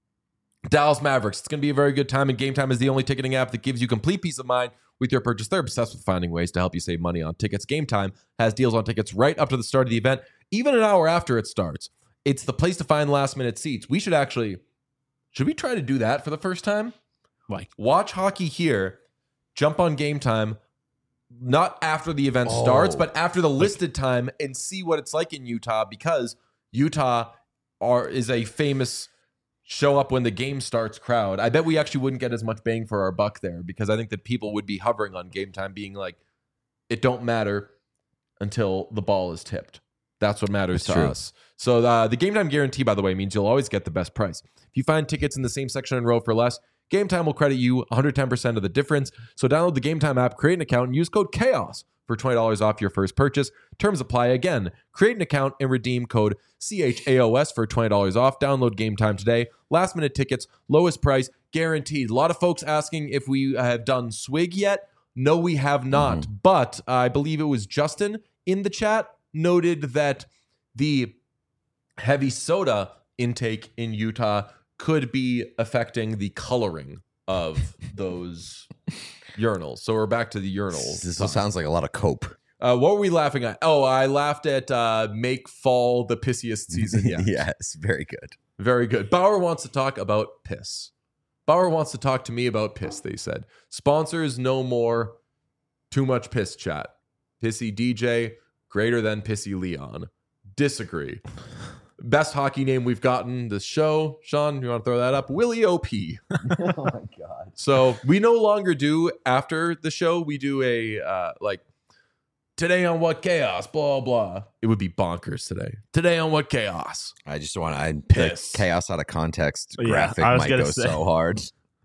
Dallas Mavericks. It's going to be a very good time, and Game Time is the only ticketing app that gives you complete peace of mind with your purchase. They're obsessed with finding ways to help you save money on tickets. Game Time has deals on tickets right up to the start of the event, even an hour after it starts. It's the place to find last-minute seats. We should actually, should we try to do that for the first time? Like, Watch hockey here, jump on Game Time, not after the event Oh. starts, but after the listed time, and see what it's like in Utah, because Utah are is a famous show up when the game starts crowd. I bet we actually wouldn't get as much bang for our buck there, because I think that people would be hovering on Game Time, being like, it don't matter until the ball is tipped. That's what matters That's to true. us. So uh, the Game Time guarantee, by the way, means you'll always get the best price. If you find tickets in the same section and row for less, Game Time will credit you one hundred ten percent of the difference. So download the Game Time app, create an account, and use code CHAOS for twenty dollars off your first purchase. Terms apply. Again, create an account and redeem code C H A O S for twenty dollars off. Download Game Time today. Last minute tickets, lowest price, guaranteed. A lot of folks asking if we have done Swig yet. No, we have not. Mm-hmm. But uh, I believe it was Justin in the chat noted that the heavy soda intake in Utah could be affecting the coloring of those urinals. So we're back to the urinals. This sounds like a lot of cope. Uh, what were we laughing at? Oh, I laughed at uh, make fall the pissiest season yet. Yes, very good. Very good. Bauer wants to talk about piss. Bauer wants to talk to me about piss, they said. Sponsors no more. Too much piss chat. Pissy D J, greater than Pissy Leon. Disagree. Best hockey name we've gotten this show. Sean, you want to throw that up? Willie O P. Oh my god. So we no longer do, after the show, we do a, uh, like, today on What Chaos, blah, blah. It would be bonkers today. Today on What Chaos. I just want to Piss. the chaos out of context Yeah, graphic I was might gonna go say. so hard.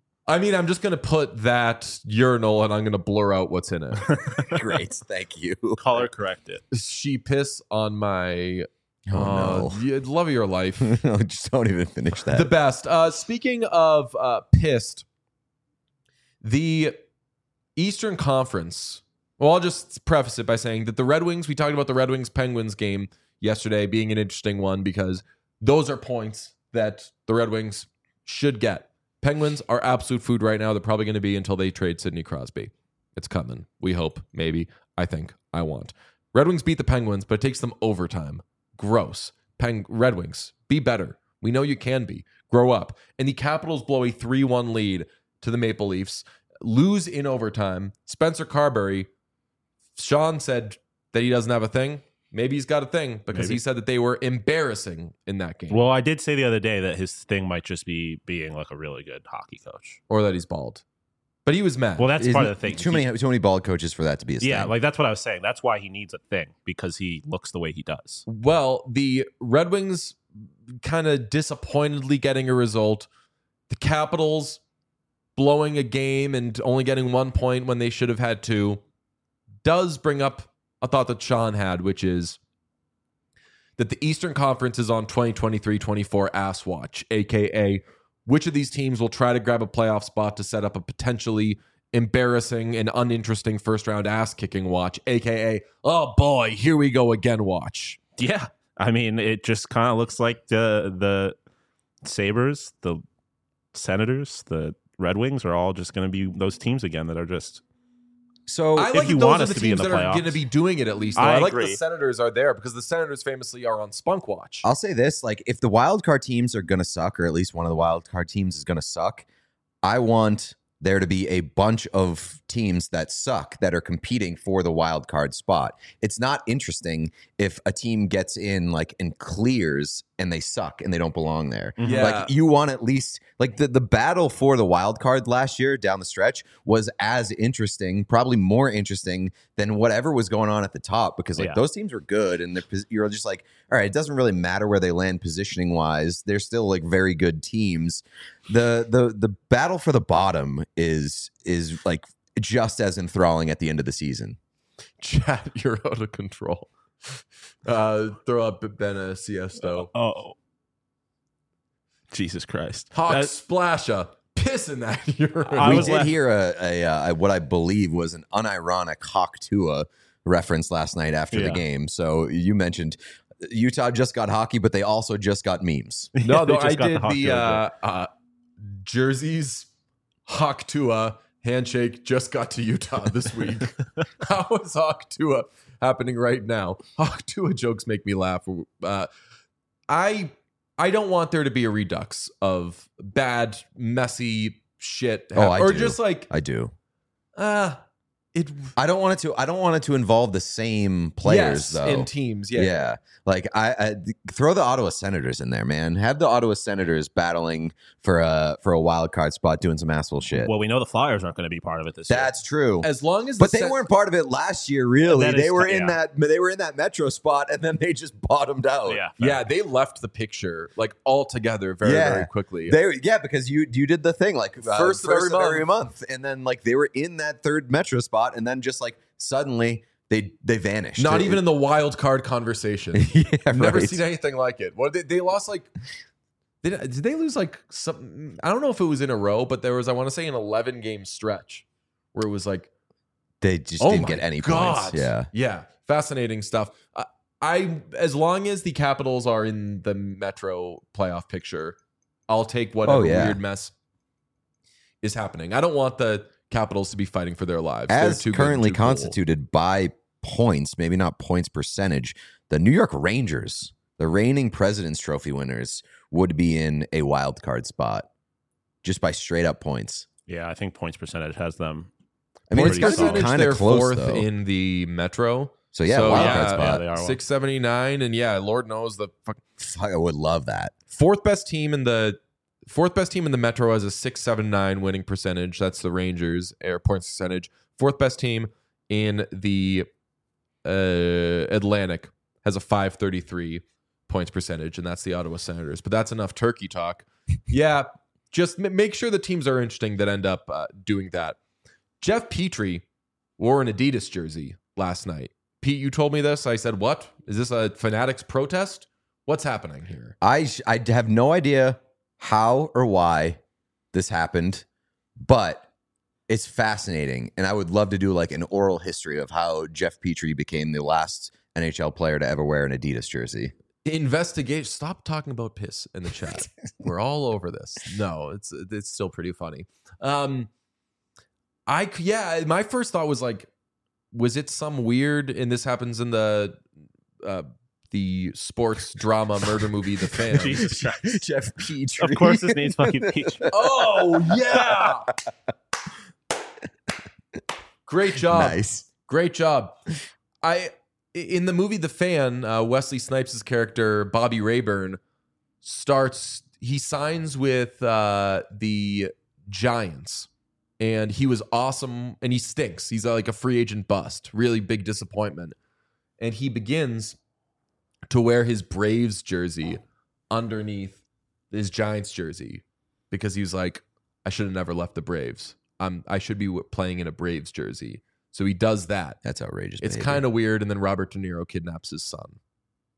I mean, I'm just going to put that urinal and I'm going to blur out what's in it. Great, thank you. color correct it. She piss on my Oh uh, yeah, love of your life. no, just don't even finish that. The best. Uh, speaking of uh, pissed, the Eastern Conference. Well, I'll just preface it by saying that the Red Wings, we talked about the Red Wings Penguins game yesterday being an interesting one because those are points that the Red Wings should get. Penguins are absolute food right now. They're probably going to be until they trade Sidney Crosby. It's coming. We hope, maybe. I think. I want. Red Wings beat the Penguins, but it takes them overtime. Gross. Peng- Red Wings, be better. We know you can be. Grow up. And the Capitals blow a three one lead to the Maple Leafs, lose in overtime. Spencer Carberry, Sean said that he doesn't have a thing. Maybe he's got a thing because Maybe. he said that they were embarrassing in that game. Well, I did say the other day that his thing might just be being like a really good hockey coach. Or that he's bald. But he was mad. Well, that's Isn't part of the thing. Too He- many, too many bald coaches for that to be a Yeah, thing. like that's what I was saying. That's why he needs a thing, because he looks the way he does. Well, the Red Wings kind of disappointedly getting a result. The Capitals blowing a game and only getting one point when they should have had two does bring up a thought that Sean had, which is that the Eastern Conference is on twenty twenty-three twenty-four ass watch, aka which of these teams will try to grab a playoff spot to set up a potentially embarrassing and uninteresting first round ass kicking watch, aka oh boy, here we go again watch. Yeah, I mean, it just kind of looks like the the Sabres, the Senators, the Red Wings are all just going to be those teams again that are just. So I if like you those want are us the to be in teams the that are playoffs. going to be doing it at least. Though. I I, like agree. the Senators are there because the Senators famously are on Spunk Watch. I'll say this: like, if the wild card teams are going to suck, or at least one of the wild card teams is going to suck, I want there to be a bunch of teams that suck that are competing for the wild card spot. It's not interesting if a team gets in like and clears and they suck and they don't belong there. Mhm. Yeah. Like you want at least like the, the battle for the wild card last year down the stretch was as interesting, probably more interesting than whatever was going on at the top because like Yeah. those teams were good and they're, pos- you're just like, all right, it doesn't really matter where they land positioning wise. They're still like very good teams. The the the battle for the bottom is is like just as enthralling at the end of the season. Chat, you're out of control. Uh, throw up Bena Siesto. Oh, Jesus Christ! Hawk That- Splasha. Piss in that urine. I we was did la- hear a, a, uh what I believe was an unironic Hawk Tua reference last night after the Yeah. game. So you mentioned Utah just got hockey, but they also just got memes. No, They no, just I got did Hawk the, Tua uh, joke. uh, jerseys, Hawk Tua, handshake just got to Utah this week. How is Hawk Tua happening right now? Hawk Tua jokes make me laugh. Uh, I I don't want there to be a redux of bad, messy shit. Oh, I or do. just like, I do. uh, it. I don't want it to. I don't want it to involve the same players yes, though. in teams. Yeah. Yeah, like I, I throw the Ottawa Senators in there, man. Have the Ottawa Senators battling for a for a wild card spot, doing some asshole shit. Well, we know the Flyers aren't going to be part of it this year. That's true. As long as, But the they Sen- weren't part of it last year, really. That They is were ki- in yeah. that. They were in that Metro spot, and then they just bottomed out. Yeah, fair. Yeah, they left the picture like altogether very, Yeah. very quickly. They, yeah, because you you did the thing like uh, First of every month. month, and then like they were in that third Metro spot, and then just like suddenly they they vanished. Not It- even in the wild card conversation. yeah, I've never right. seen anything like it. What they, they lost like did, did they lose like some I don't know if it was in a row, but there was I want to say an eleven game stretch where it was like They just oh didn't my get any God. points. Yeah. Yeah, fascinating stuff. I, I as long as the Capitals are in the Metro playoff picture, I'll take whatever Oh, yeah. weird mess is happening. I don't want the Capitals to be fighting for their lives. They're As too good and currently too cool. constituted by points, maybe not points percentage, the New York Rangers, the reigning President's Trophy winners, would be in a wild card spot just by straight up points. Yeah, I think points percentage has them. I mean, it's Pretty got to be solid. kind They're of close fourth though. in the Metro. so yeah, so, wild yeah, card yeah, spot. they are. six seventy-nine, and yeah, Lord knows the fuck, Fuck, I would love that. fourth best team in the fourth best team in the Metro has a six seventy-nine winning percentage. That's the Rangers, air points percentage. Fourth best team in the uh, Atlantic has a five thirty-three points percentage, and that's the Ottawa Senators. But that's enough turkey talk. Yeah, just m- make sure the teams are interesting that end up uh, doing that. Jeff Petrie wore an Adidas jersey last night. Pete, you told me this. I said, what? Is this a Fanatics protest? What's happening here? I sh- I have no idea how or why this happened, but it's fascinating, and I would love to do like an oral history of how Jeff Petrie became the last N H L player to ever wear an Adidas jersey. Investigation. Stop talking about piss in the chat. We're all over this. No, it's it's still pretty funny. Um, I c- yeah. My first thought was like, was it some weird? And this happens in the uh, the sports drama murder movie, The Fan. Jesus Christ. Jeff Petrie. Of course, his name's fucking Peach. Oh yeah. Great job. Nice. Great job. I in the movie The Fan, uh, Wesley Snipes' character Bobby Rayburn starts. He signs with uh, the Giants, and he was awesome. And he stinks. He's uh, like a free agent bust. Really big disappointment. And he begins to wear his Braves jersey underneath his Giants jersey because he was like, I should have never left the Braves. I'm I should be w- playing in a Braves jersey. So he does that. That's outrageous. It's kind of weird. And then Robert De Niro kidnaps his son.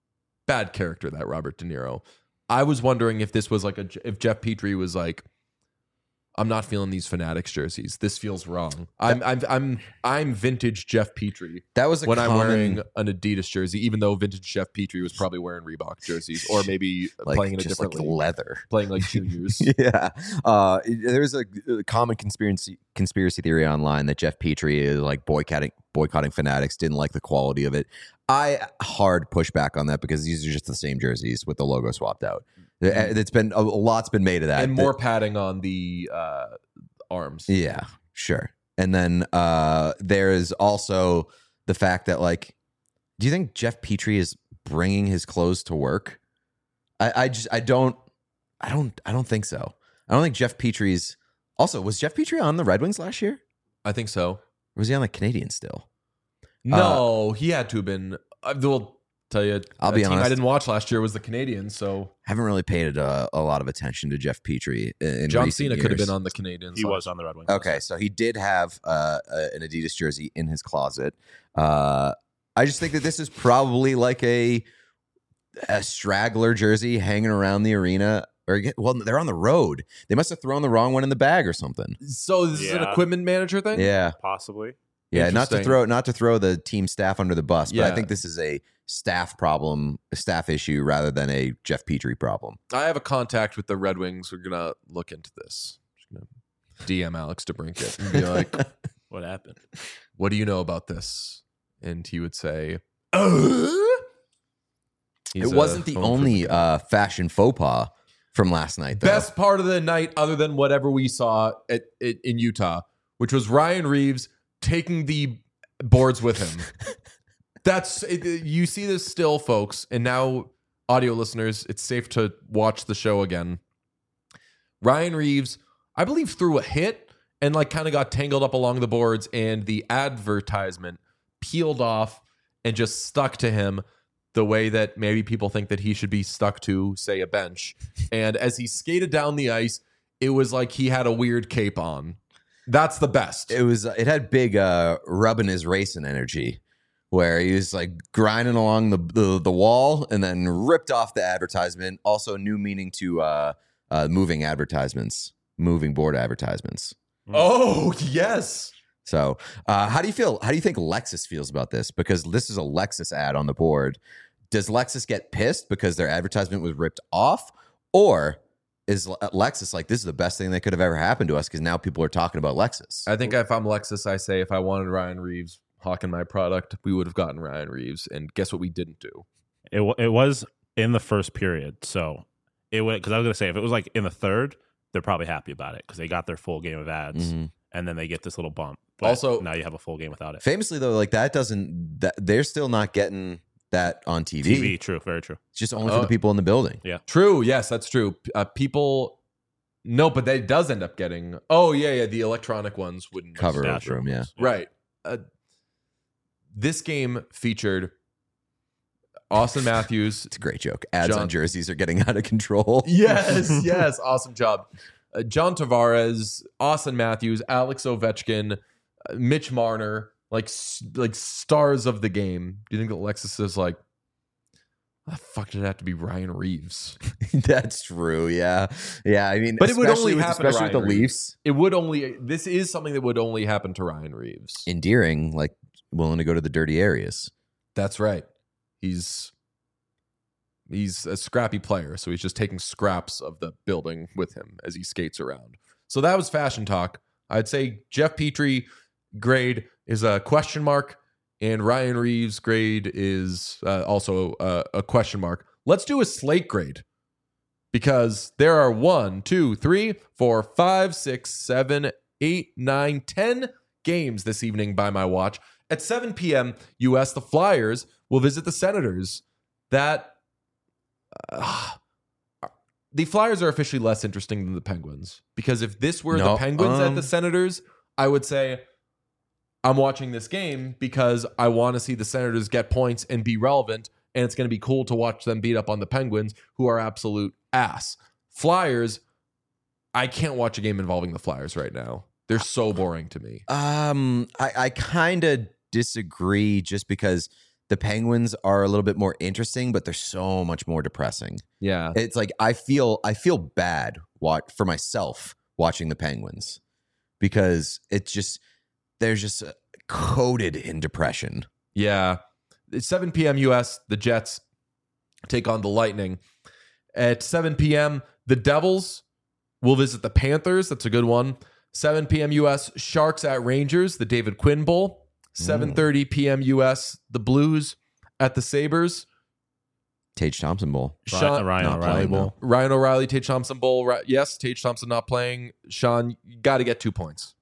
bad character, that Robert De Niro. I was wondering if this was like a if Jeff Petrie was like, I'm not feeling these Fanatics jerseys. This feels wrong. I'm I'm I'm I'm vintage Jeff Petrie. That was a when common, I'm wearing an Adidas jersey, even though vintage Jeff Petrie was probably wearing Reebok jerseys, or maybe like, playing in a just different like league, leather, playing like juniors. yeah, uh, there's a, a common conspiracy conspiracy theory online that Jeff Petrie is like boycotting boycotting Fanatics, didn't like the quality of it. I hard push back on that because these are just the same jerseys with the logo swapped out. It's been a lot's been made of that, and more padding on the uh, arms. Yeah, sure. And then uh, there is also the fact that, like, do you think Jeff Petrie is bringing his clothes to work? I, I just I don't I don't I don't think so. I don't think Jeff Petrie's. Also, was Jeff Petrie on the Red Wings last year? I think so. Or was he on the Canadiens still? No, uh, he had to have been. I will tell you, I'll be team honest. I didn't watch last year was the Canadiens, so Haven't really paid a, a lot of attention to Jeff Petrie. In, in John recent Cena could have years. been on the Canadiens. He last was on the Red Wings. Okay, so he did have uh, a, an Adidas jersey in his closet. Uh, I just think that this is probably like a a straggler jersey hanging around the arena. Or well, they're on the road. They must have thrown the wrong one in the bag or something. So this is an Yeah. equipment manager thing. Yeah, Possibly. yeah. Not to Interesting. throw not to throw the team staff under the bus, but I Yeah. think this is a staff problem, a staff issue, rather than a Jeff Petrie problem. I have a contact with the Red Wings. We're gonna look into this. Just gonna D M Alex DeBrincat and be like, What happened? "What do you know about this?" And he would say, "Uh?" He's it a wasn't the home only improvement guy. uh, fashion faux pas from last night, though. best part of the night, other than whatever we saw at, at in Utah, which was Ryan Reeves taking the boards with him. That's it, you see this still, folks, and now audio listeners, it's safe to watch the show again. Ryan Reeves, I believe, threw a hit and like kind of got tangled up along the boards, and the advertisement peeled off and just stuck to him the way that maybe people think that he should be stuck to, say, a bench. And as he skated down the ice, it was like he had a weird cape on. That's the best. It was. It had big uh, rubbing his racing energy, where he was like grinding along the, the the wall and then ripped off the advertisement. Also, new meaning to uh, uh, moving advertisements, moving board advertisements. Oh, yes. So, uh, how do you feel? How do you think Lexus feels about this? Because this is a Lexus ad on the board. Does Lexus get pissed because their advertisement was ripped off, or is Le- Lexus like, this is the best thing that could have ever happened to us because now people are talking about Lexus? I think if I'm Lexus, I say if I wanted Ryan Reeves hawking my product, we would have gotten Ryan Reeves. And guess what we didn't do? It wa- it was in the first period, so it went because I was gonna say if it was like in the third, they're probably happy about it because they got their full game of ads, Mhm. and then they get this little bump. But Also- now you have a full game without it. Famously, though, like that doesn't that they're still not getting that on T V. T V, true, very true. It's just only for Oh. the people in the building. True. Yes, that's true. Uh, people, no, but that does end up getting. Oh yeah, yeah. The electronic ones wouldn't Cover Yeah, over true. them, yeah. Right. Uh, this game featured Austin Matthews. It's a great joke. Ads John- on jerseys are getting out of control. Yes, yes. Awesome job. Uh, John Tavares, Austin Matthews, Alex Ovechkin, uh, Mitch Marner, like s- like stars of the game. Do you think that Lexus is like, "Ah, fuck, did it have to be Ryan Reeves? That's true. Yeah, yeah. I mean, But it would especially only with, happen to especially with the Ryan Reeves. Leafs. It would only. This is something that would only happen to Ryan Reeves. Endearing, like willing to go to the dirty areas. That's right. He's he's a scrappy player, so he's just taking scraps of the building with him as he skates around. So that was fashion talk. I'd say Jeff Petrie grade is a question mark, and Ryan Reeves grade is uh, also a, a question mark. Let's do a slate grade because there are one, two, three, four, five, six, seven, eight, nine, ten games this evening by my watch. At seven p.m. U S, the Flyers will visit the Senators. That uh, the Flyers are officially less interesting than the Penguins because if this were No, the Penguins at um, the Senators, I would say I'm watching this game because I want to see the Senators get points and be relevant, and it's going to be cool to watch them beat up on the Penguins, who are absolute ass. Flyers, I can't watch a game involving the Flyers right now. They're so boring to me. Um, I, I kind of disagree just because the Penguins are a little bit more interesting, but they're so much more depressing. Yeah. It's like I feel I feel bad what for myself watching the Penguins because it's just they're just coated in depression. Yeah. It's seven p.m. U S, the Jets take on the Lightning. At seven p.m., the Devils will visit the Panthers. That's a good one. seven p.m. U S, Sharks at Rangers, the David Quinn Bowl. seven thirty p.m. U S, the Blues at the Sabres. Tage Thompson Bowl. Sean, Ryan not O'Reilly playing, Bowl. Ryan O'Reilly, Tage Thompson Bowl. Ri- Yes, Tage Thompson not playing. Sean, you got to get two points.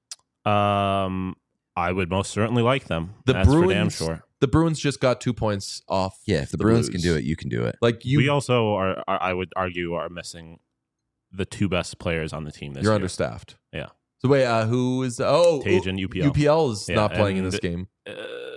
Um, I would most certainly like them. The That's Bruins, for damn sure. The Bruins just got two points off. Yeah, if the, the Bruins Blues. can do it, you can do it. Like you, we also are, are, I would argue, are missing the two best players on the team this you're year. understaffed. Yeah. So wait, uh, who is? Oh, Tage and U P L. U P L is Yeah, not playing in and this the- game. Uh,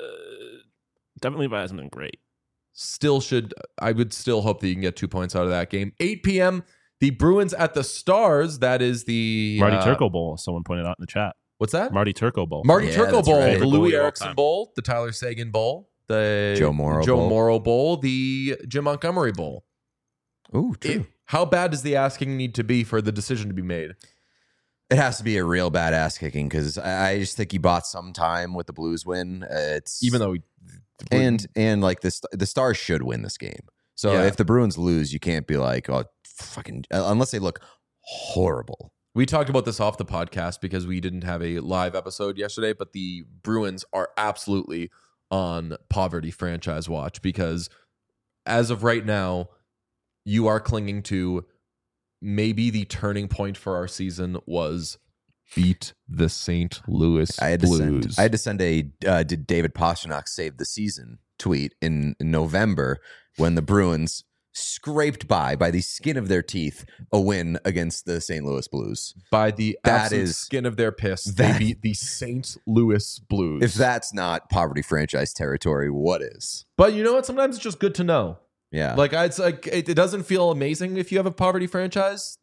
definitely hasn't been great. Still should. I would still hope that you can get two points out of that game. eight p.m. The Bruins at the Stars. That is the Marty uh, Turco Bowl, someone pointed out in the chat. What's that? Marty Turco Bowl. Marty Yeah, Turco that's Bowl, right. the Favorite Louis goalie of all Erickson time. Bowl, the Tyler Sagan Bowl, the Joe Morrow Joe Bowl. Morrow Bowl, the Jim Montgomery Bowl. Ooh, true. It- how bad does the asking need to be for the decision to be made? It has to be a real bad ass kicking because I I just think he bought some time with the Blues win. Uh, It's Even though, he, and and like the the Stars should win this game. So Yeah. if the Bruins lose, you can't be like, oh, fucking, uh, unless they look horrible. we talked about this off the podcast because we didn't have a live episode yesterday, but the Bruins are absolutely on poverty franchise watch because as of right now, you are clinging to maybe the turning point for our season was beat the Saint Louis I had to Blues. send, I had to send a uh, did David Pastrnak save the season tweet in, in November when the Bruins scraped by by the skin of their teeth a win against the Saint Louis Blues. By the That absolute is- skin of their piss, that- they beat the Saint Louis Blues. If that's not poverty franchise territory, what is? But you know what? Sometimes it's just good to know. Yeah. Like it's like it, it doesn't feel amazing if you have a poverty franchise.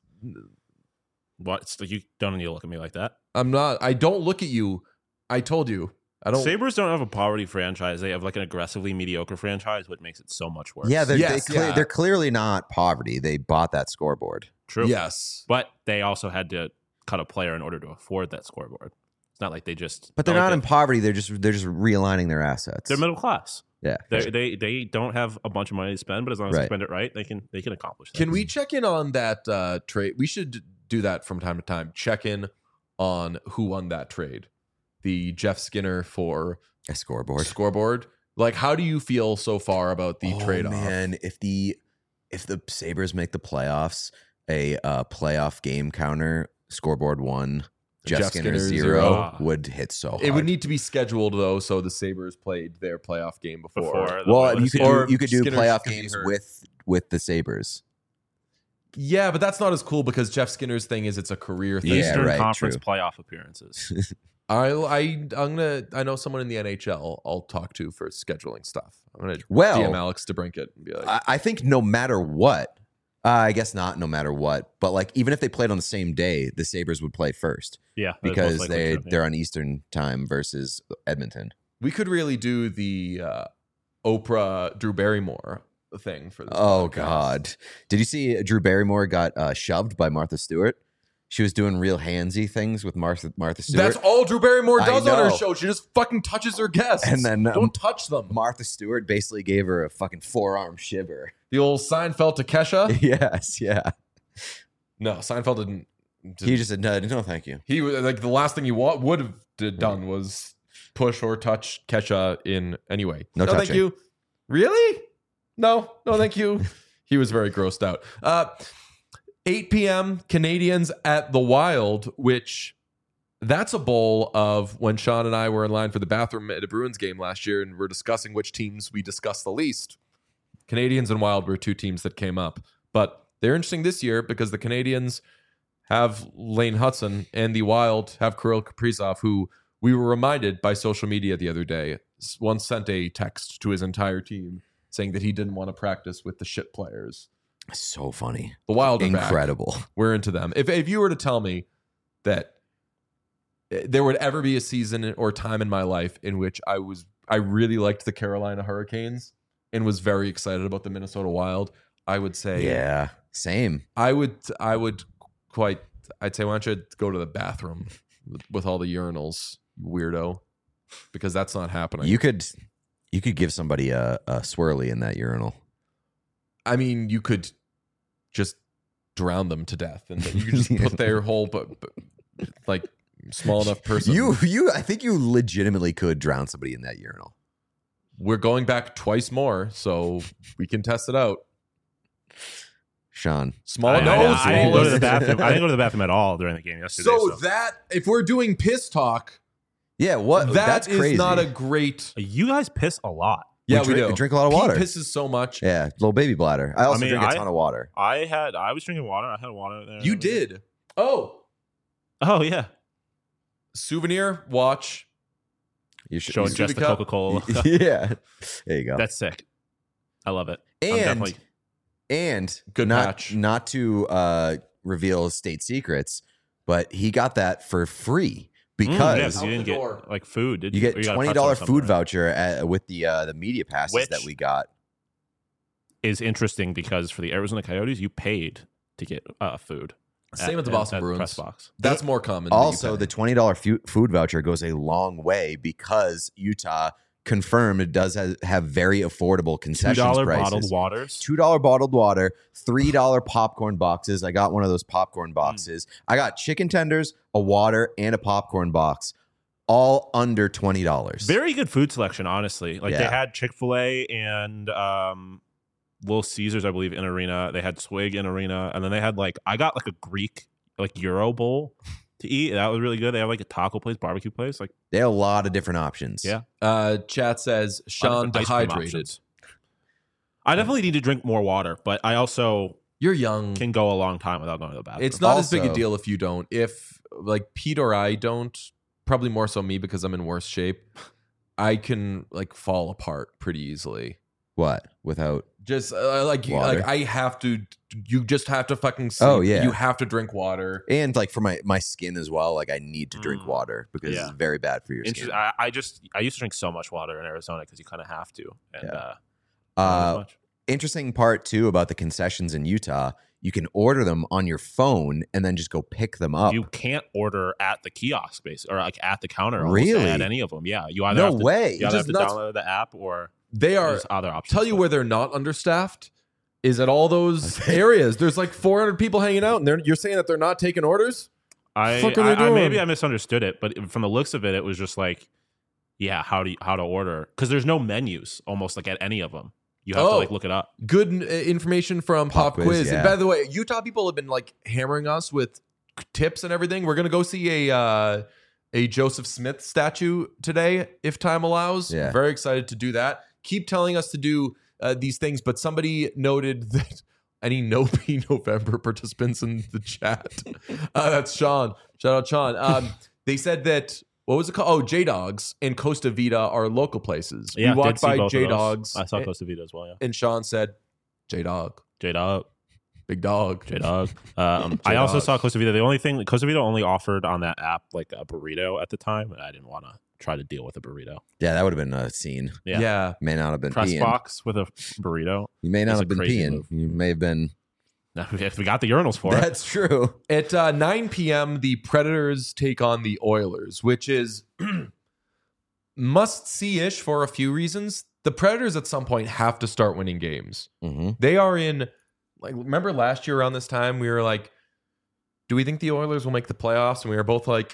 What? It's like you don't need to look at me like that. I'm not. I don't look at you. I told you. I don't. Sabres don't have a poverty franchise. They have like an aggressively mediocre franchise, which makes it so much worse. yeah, they're, Yes, they cle- yeah. they're clearly not poverty. They bought that scoreboard. true. Yes. But they also had to cut a player in order to afford that scoreboard. It's not like they just. But they're like not they- in poverty. They're just they're just realigning their assets. They're middle class. yeah. They they they don't have a bunch of money to spend, but as long as they Right. spend it right, they can they can accomplish that. Can we check in on that uh, trade? We should do that from time to time. Check in on who won that trade. The Jeff Skinner for A scoreboard. scoreboard. Like, how do you feel so far about the oh, trade off? man, if the if the Sabres make the playoffs, a uh, playoff game counter scoreboard one, Jeff, Jeff Skinner, Skinner zero, zero. would hit so hard. It would need to be scheduled though, so the Sabres played their playoff game before. before the well, Oilers you could game? Or do, you could do Skinner playoff could be games hurt. with with the Sabres. Yeah, but that's not as cool because Jeff Skinner's thing is it's a career thing. Yeah, Eastern right, Conference true. playoff appearances. I I I'm gonna I know someone in the N H L I'll talk to for scheduling stuff. I'm gonna Well, D M Alex DeBrincat and be like, I, I think no matter what, uh, I guess not no matter what, but like even if they played on the same day, the Sabres would play first yeah, that's most because likely they true, yeah. they're on Eastern time versus Edmonton. we could really do the uh, Oprah Drew Barrymore thing for this. Oh podcast. God! Did you see Drew Barrymore got uh, shoved by Martha Stewart? She was doing real handsy things with Martha Martha Stewart. That's all Drew Barrymore I does on her know. show. She just fucking touches her guests. And then, um, don't touch them. Martha Stewart basically gave her a fucking forearm shiver. The old Seinfeld to Kesha. Yes, yeah. No, Seinfeld didn't. didn't He just said no, no, thank you. he was like the last thing he wa- would have did, done was push or touch Kesha in any way. No thank touching. you. Really? No, no, thank you. He was very grossed out. Uh, eight p.m. Canadians at the Wild, which that's a bowl of when Sean and I were in line for the bathroom at a Bruins game last year, and we're discussing which teams we discuss the least. Canadians and Wild were two teams that came up, but they're interesting this year because the Canadians have Lane Hudson and the Wild have Kirill Kaprizov, who we were reminded by social media the other day once sent a text to his entire team saying that he didn't want to practice with the shit players. So funny. The Wild are back. Incredible. We're into them. If if you were to tell me that there would ever be a season or time in my life in which I was I really liked the Carolina Hurricanes and was very excited about the Minnesota Wild. I would say, Yeah, same. I would, I would quite, I'd say, why don't you go to the bathroom with, with all the urinals, you weirdo, because that's not happening. You could, you could give somebody a, a swirly in that urinal. I mean, you could just drown them to death, and you could just put their whole, but, but like small enough person. You, you, I think you legitimately could drown somebody in that urinal. We're going back twice more, so we can test it out. Sean, Small I, nose. I, I didn't go to the bathroom. I didn't go to the bathroom at all during the game yesterday. So, So, that if we're doing piss talk, yeah, what? that That's is crazy. not a great. you guys piss a lot. Yeah, we we, drink, do. drink a lot of Pete water. pisses so much. Yeah, little baby bladder. I also I mean, drink a I- ton of water. I had. I was drinking water. I had water there. You did. Oh, Oh yeah. souvenir watch. You should. Showing you- just the cup. Coca Cola. yeah, there you go. That's sick. I love it. I'm and definitely- and Good not, match. Not to uh, reveal state secrets, but he got that for free because Mm, yeah, 'cause Out you didn't the get door. like food. Did you you? get Or got a twenty pretzel or dollar something, food right? voucher at, with the uh, the media passes Which- that we got. Is interesting because for the Arizona Coyotes, you paid to get uh, food. Same at- with the at- Boston at Bruins. press box. That's more common. that you Also, pay. the twenty dollar fu- food voucher goes a long way because Utah confirmed it does have, have very affordable Two concessions dollar prices. bottled waters. Two dollar bottled water, three dollar popcorn boxes. I got one of those popcorn boxes. I got chicken tenders, a water, and a popcorn box, all under twenty dollars. Very good food selection, honestly. Like they Yeah. had Chick Fil A and um, Little Caesars, I believe, in Arena. They had Swig in Arena, and then they had like I got like a Greek like Euro bowl to eat. That was really good. They have like a taco place, barbecue place. Like They have a lot of different options. Yeah. uh, chat says Sean different ice cream dehydrated. options. I definitely need to drink more water, but I also You're young. can go a long time without going to the bathroom. It's not as big a Also- deal if you don't. If like Pete or I don't, probably more so me because I'm in worse shape. I can like fall apart pretty easily. What? Without Just uh, like you- Water. like I have to. You just have to fucking sleep. Oh, yeah. You have to drink water. and like for my my skin as well, like I need to drink Mm. water because Yeah. it's very bad for your Interest- skin. I, I just I used to drink so much water in Arizona because you kind of have to. And Yeah. uh, not as Uh, much. interesting part too about the concessions in Utah. You can order them on your phone and then just go pick them up. You can't order at the kiosk base or like at the counter. almost Really? At any of them. Yeah. You either no have to, way. you either have Just to nuts. download the app or They are. there's other options. Tell you but- where they're not understaffed is at all those areas. There's like four hundred people hanging out, and they're, you're saying that they're not taking orders. I, fuck are they I, I doing? maybe I misunderstood it, but from the looks of it, it was just like, yeah, how do you, how to order? Because there's no menus almost like at any of them. You have to Oh. like look it up. Good uh, information from Pop Pop, Quiz, Quiz. yeah. And by the way, Utah people have been like hammering us with tips and everything. We're gonna go see a uh, a Joseph Smith statue today if time allows. Yeah. Very excited to do that. Keep telling us to do uh, these things, but somebody noted that any No Pee November participants in the chat. Uh, that's Sean. Shout out Sean. Um, they said that. What was it called? Oh, J Dogs and Costa Vida are local places. Yeah, we walked did see by both of J those. Dogs. I saw and, Costa Vida as well. Yeah, and Sean said, J Dog, J Dog, big dog. J Dog. Um, I also saw Costa Vida. The only thing Costa Vida only offered on that app like a burrito at the time, and I didn't want to try to deal with a burrito. Yeah, that would have been a scene. Yeah. Yeah. May not have been Press peeing. box with a burrito. You may not That's have a been crazy peeing. move. You may have been. If we got the urinals for it, That's true. At uh, nine p.m., the Predators take on the Oilers, which is must-see-ish for a few reasons. The Predators at some point have to start winning games. hmm They are in, like, remember last year around this time, we were like, do we think the Oilers will make the playoffs? And we were both like,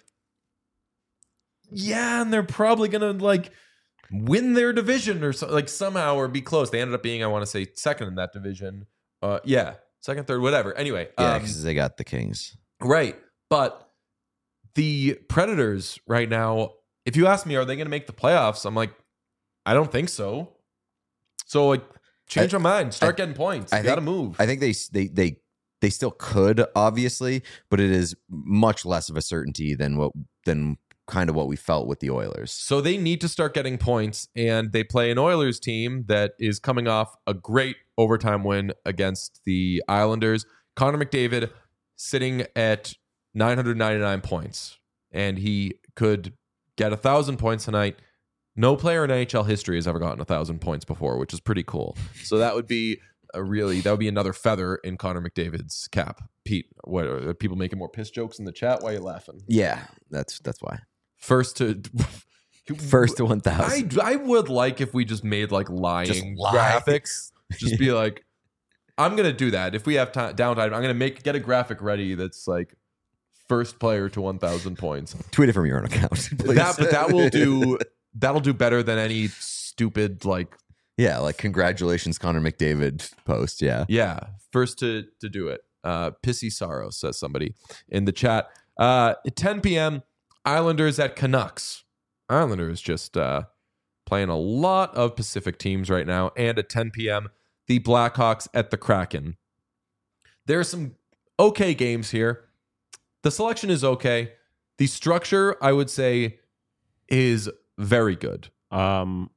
yeah, and they're probably going to, like, win their division or so, like somehow or be close. They ended up being, I want to say, second in that division. Uh, yeah, second, third, whatever. Anyway. Yeah, um, because they got the Kings. Right. But the Predators right now, if you ask me, are they going to make the playoffs? I'm like, I don't think so. So, like, change I- my mind. Start I- getting points. I You got to think- move. I think they they they they still could, obviously, but it is much less of a certainty than what than kind of what we felt with the Oilers. So they need to start getting points, and they play an Oilers team that is coming off a great overtime win against the Islanders. Connor McDavid sitting at nine hundred ninety-nine points, and he could get a thousand points tonight. No player in N H L history has ever gotten a thousand points before, which is pretty cool. So that would be a really that would be another feather in Connor McDavid's cap. Pete, what are people making more piss jokes in the chat? Why are you laughing? Yeah, that's that's why. First to First to one thousand. I I would like if we just made like lying Just lie. graphics. Just be like, I'm gonna do that if we have time downtime. I'm gonna make get a graphic ready that's like first player to one thousand points. Tweet it from your own account, please. That but that will do that'll do better than any stupid like Yeah, like congratulations, Connor McDavid post. Yeah. yeah first to to do it. Uh, Pissy Sorrow says somebody in the chat. Uh, at ten p.m. Islanders at Canucks. Islanders just uh, playing a lot of Pacific teams right now. And at ten p.m., the Blackhawks at the Kraken. There are some okay games here. The selection is okay. The structure, I would say, is very good. Um,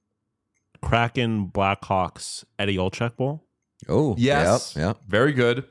Kraken, Blackhawks, Eddie Olczyk Bowl. Oh, Yes. Yep. Yep. Very good.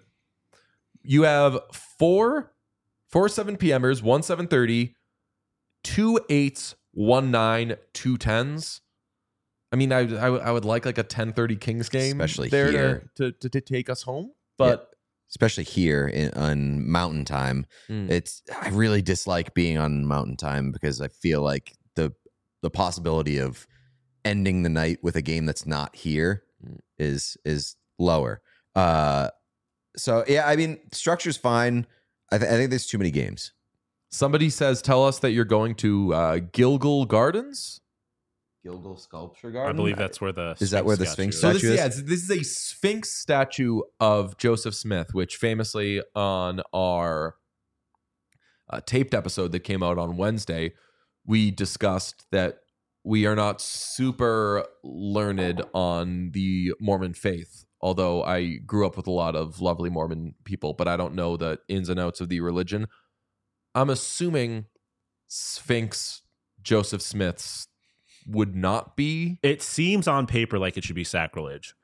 You have four, four seven p.m.ers, one seven thirty, two eights, one nine, two tens. I mean, I, I, I would like like a ten thirty Kings game, Especially there here. To, to, to take us home. But Especially here in, on Mountain Time. Mm. It's I really dislike being on Mountain Time because I feel like the the possibility of ending the night with a game that's not here is is lower. Uh, so yeah, I mean, structure's fine. I, th- I think there's too many games. somebody says, tell us that you're going to uh, Gilgal Gardens. Gilgal Sculpture Garden. I believe that's where the Is that where the statue Sphinx is. So this, statue is? yeah, it's- this is a Sphinx statue of Joseph Smith, which famously on our uh, taped episode that came out on Wednesday, we discussed that we are not super learned on the Mormon faith. Although I grew up with a lot of lovely Mormon people, but I don't know the ins and outs of the religion. I'm assuming Sphinx Joseph Smith's would not be. It seems on paper like it should be sacrilege.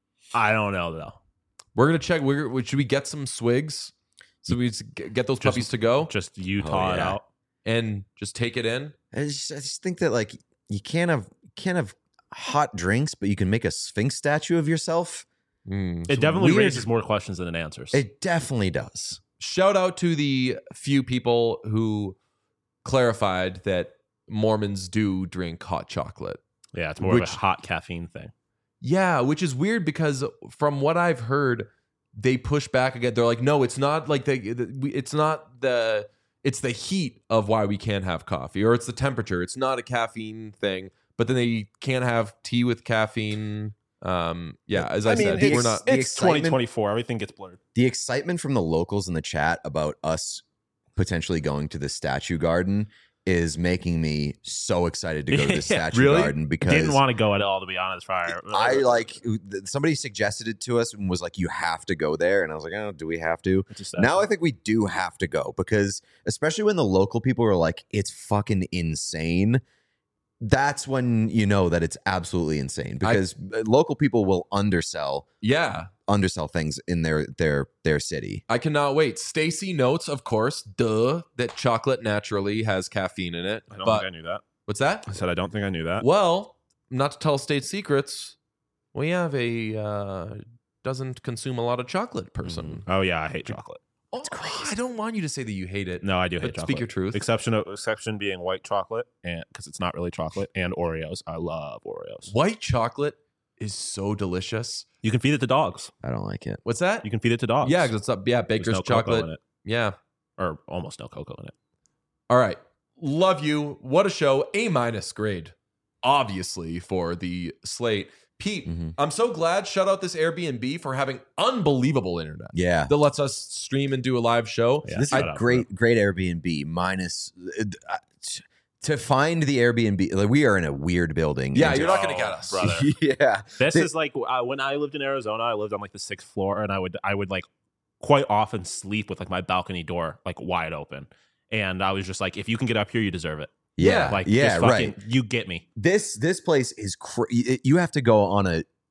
I don't know though. We're gonna check. We're, should we get some swigs so we just get those Just- puppies to go Just Utah Oh, it yeah. out. and just take it in? I just, I just think that like you can't have can't have hot drinks, but you can make a Sphinx statue of yourself. Mm, It so definitely weird. raises more questions than it answers. It definitely does. Shout out to the few people who clarified that Mormons do drink hot chocolate. yeah, it's more which- of a hot caffeine thing. Yeah, which is weird because from what I've heard, they push back again. They're like, no, it's not like the, the we- it's not the it's the heat of why we can't have coffee, or it's the temperature. It's not a caffeine thing. But then they can't have tea with caffeine. Um, yeah, as I, I mean, said, it's- we're not. the It's excitement- twenty twenty-four. Everything gets blurred. The excitement from the locals in the chat about us potentially going to the statue garden is making me so excited to go to the Yeah, statue really? garden because Didn't want to go at all, to be honest. Prior, I like somebody suggested it to us and was like, you have to go there. And I was like, oh, do we have to? It's a statue. Now I think we do have to go because especially when the local people are like, it's fucking insane. That's when you know that it's absolutely insane because local people will undersell Yeah, undersell things in their their their city. I cannot wait. Stacy notes, of course, duh, that chocolate naturally has caffeine in it. I don't But think I knew that. what's that? I said I don't think I knew that. Well, not to tell state secrets, we have a uh, doesn't consume a lot of chocolate person. Oh yeah, I hate chocolate. Oh, I don't want you to say that you hate it. No, I do hate But chocolate. speak your truth. Exception, exception being white chocolate, and because it's not really chocolate, and Oreos. I love Oreos. White chocolate is so delicious. You can feed it to dogs. I don't like it. What's that? You can feed it to dogs. Yeah, because it's up. Yeah, There's Baker's no cocoa chocolate. in it, Yeah. or almost no cocoa in it. All right. Love you. What a show. A minus grade, obviously, for the slate. Pete, Mhm. I'm so glad. Shout out this Airbnb for having unbelievable internet Yeah. that lets us stream and do a live show. Yeah, This is shout a out for great, great Airbnb. Minus uh, uh, t- to find the Airbnb, like we are in a weird building. Yeah, And you're to- not going to get us. brother. yeah, This Th- is like uh, when I lived in Arizona. I lived on like the sixth floor, and I would I would like quite often sleep with like my balcony door like wide open. And I was just like, if you can get up here, you deserve it. yeah, Like, yeah, just fucking, right. You get me. This this place is cra- y- you have to go on a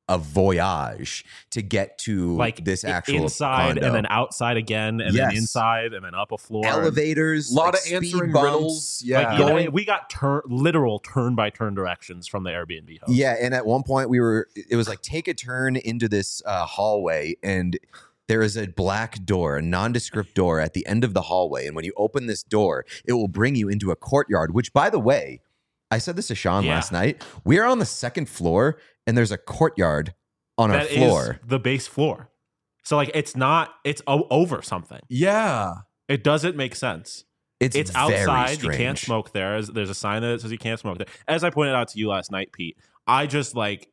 a voyage to get to like this i- actual inside condo. and then outside again and Yes. then inside and then up a floor. Elevators, A lot like of speed answering bumps. riddles. Yeah. Like, you know, we got turn literal turn by turn directions from the Airbnb host. Yeah, and at one point we were, it was like take a turn into this uh, hallway, and there is a black door, a nondescript door at the end of the hallway. And when you open this door, it will bring you into a courtyard, which, by the way, I said this to Sean Yeah. last night. We are on the second floor, and there's a courtyard on our That floor. is the base floor. So like it's not it's o- over something. Yeah. It doesn't make sense. It's, It's very outside. You can't strange. smoke there. There's- There's a sign that says you can't smoke there. As I pointed out to you last night, Pete, I just like,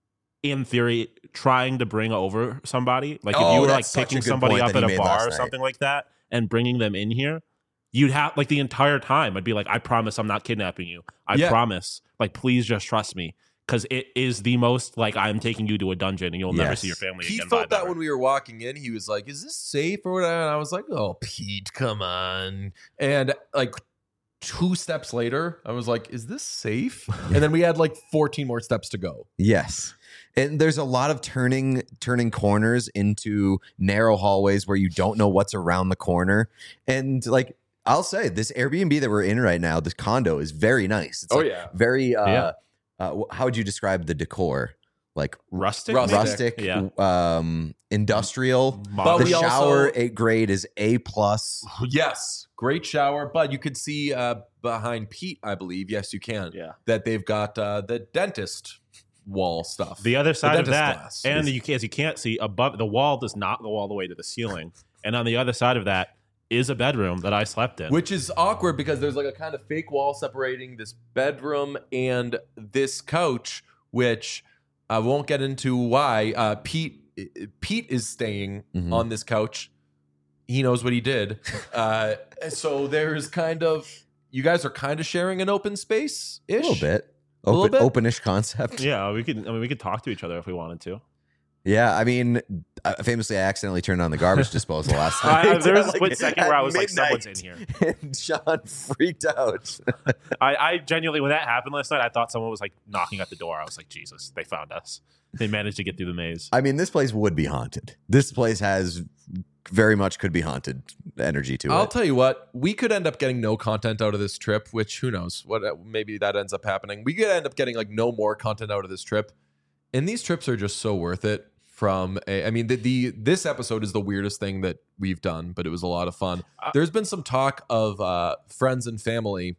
in theory, trying to bring over somebody. Like if Oh, you were like that's such a picking good somebody point up that at he a made last bar or night. something like that and bringing them in here, you'd have like the entire time I'd be like, I promise I'm not kidnapping you. I Yeah. promise. Like, please just trust me. Because it is the most like I'm taking you to a dungeon and you'll never Yes. see your family He again. felt vibe that ever. when we were walking in. He was like, "Is this safe or whatever?" And I was like, "Oh, Pete, come on!" And like two steps later, I was like, "Is this safe?" And then we had like fourteen more steps to go. Yes. And there's a lot of turning turning corners into narrow hallways where you don't know what's around the corner. And like I'll say, this Airbnb that we're in right now, this condo is very nice. It's Oh, like yeah. very uh, Yeah. uh wh- how would you describe the decor? Like rustic, Rustic. maybe? rustic, Yeah. um industrial. But The we shower also- a grade is A plus. Yes, great shower. But you could see uh, behind Pete, I believe. Yes, you can. Yeah. That they've got uh, the dentist wall stuff. The other side of dentist that, glass and is- you can, as you can't see above the wall, does not go all the way to the ceiling, and on the other side of that is a bedroom that I slept in. Which is awkward because there's like a kind of fake wall separating this bedroom and this couch, which I won't get into why. Uh, Pete Pete is staying Mhm. on this couch. He knows what he did. Uh, so there's kind of you guys are kind of sharing an open space A ish. little bit. A little Open, bit? openish concept. yeah, we could. I mean, we could talk to each other if we wanted to. Yeah, I mean, uh, famously, I accidentally turned on the garbage disposal last I- night. there was a Like, split second at where I was like, midnight. "Someone's in here." And Sean freaked out. I, I genuinely, when that happened last night, I thought someone was like knocking at the door. I was like, Jesus, they found us. They managed to get through the maze. I mean, this place would be haunted. This place has very much could be haunted energy to I'll it. tell you what, we could end up getting no content out of this trip, which who knows? What maybe that ends up happening. We could end up getting like no more content out of this trip. And these trips are just so worth it. From a, I mean, the, the this episode is the weirdest thing that we've done, but it was a lot of fun. Uh, There's been some talk of uh, friends and family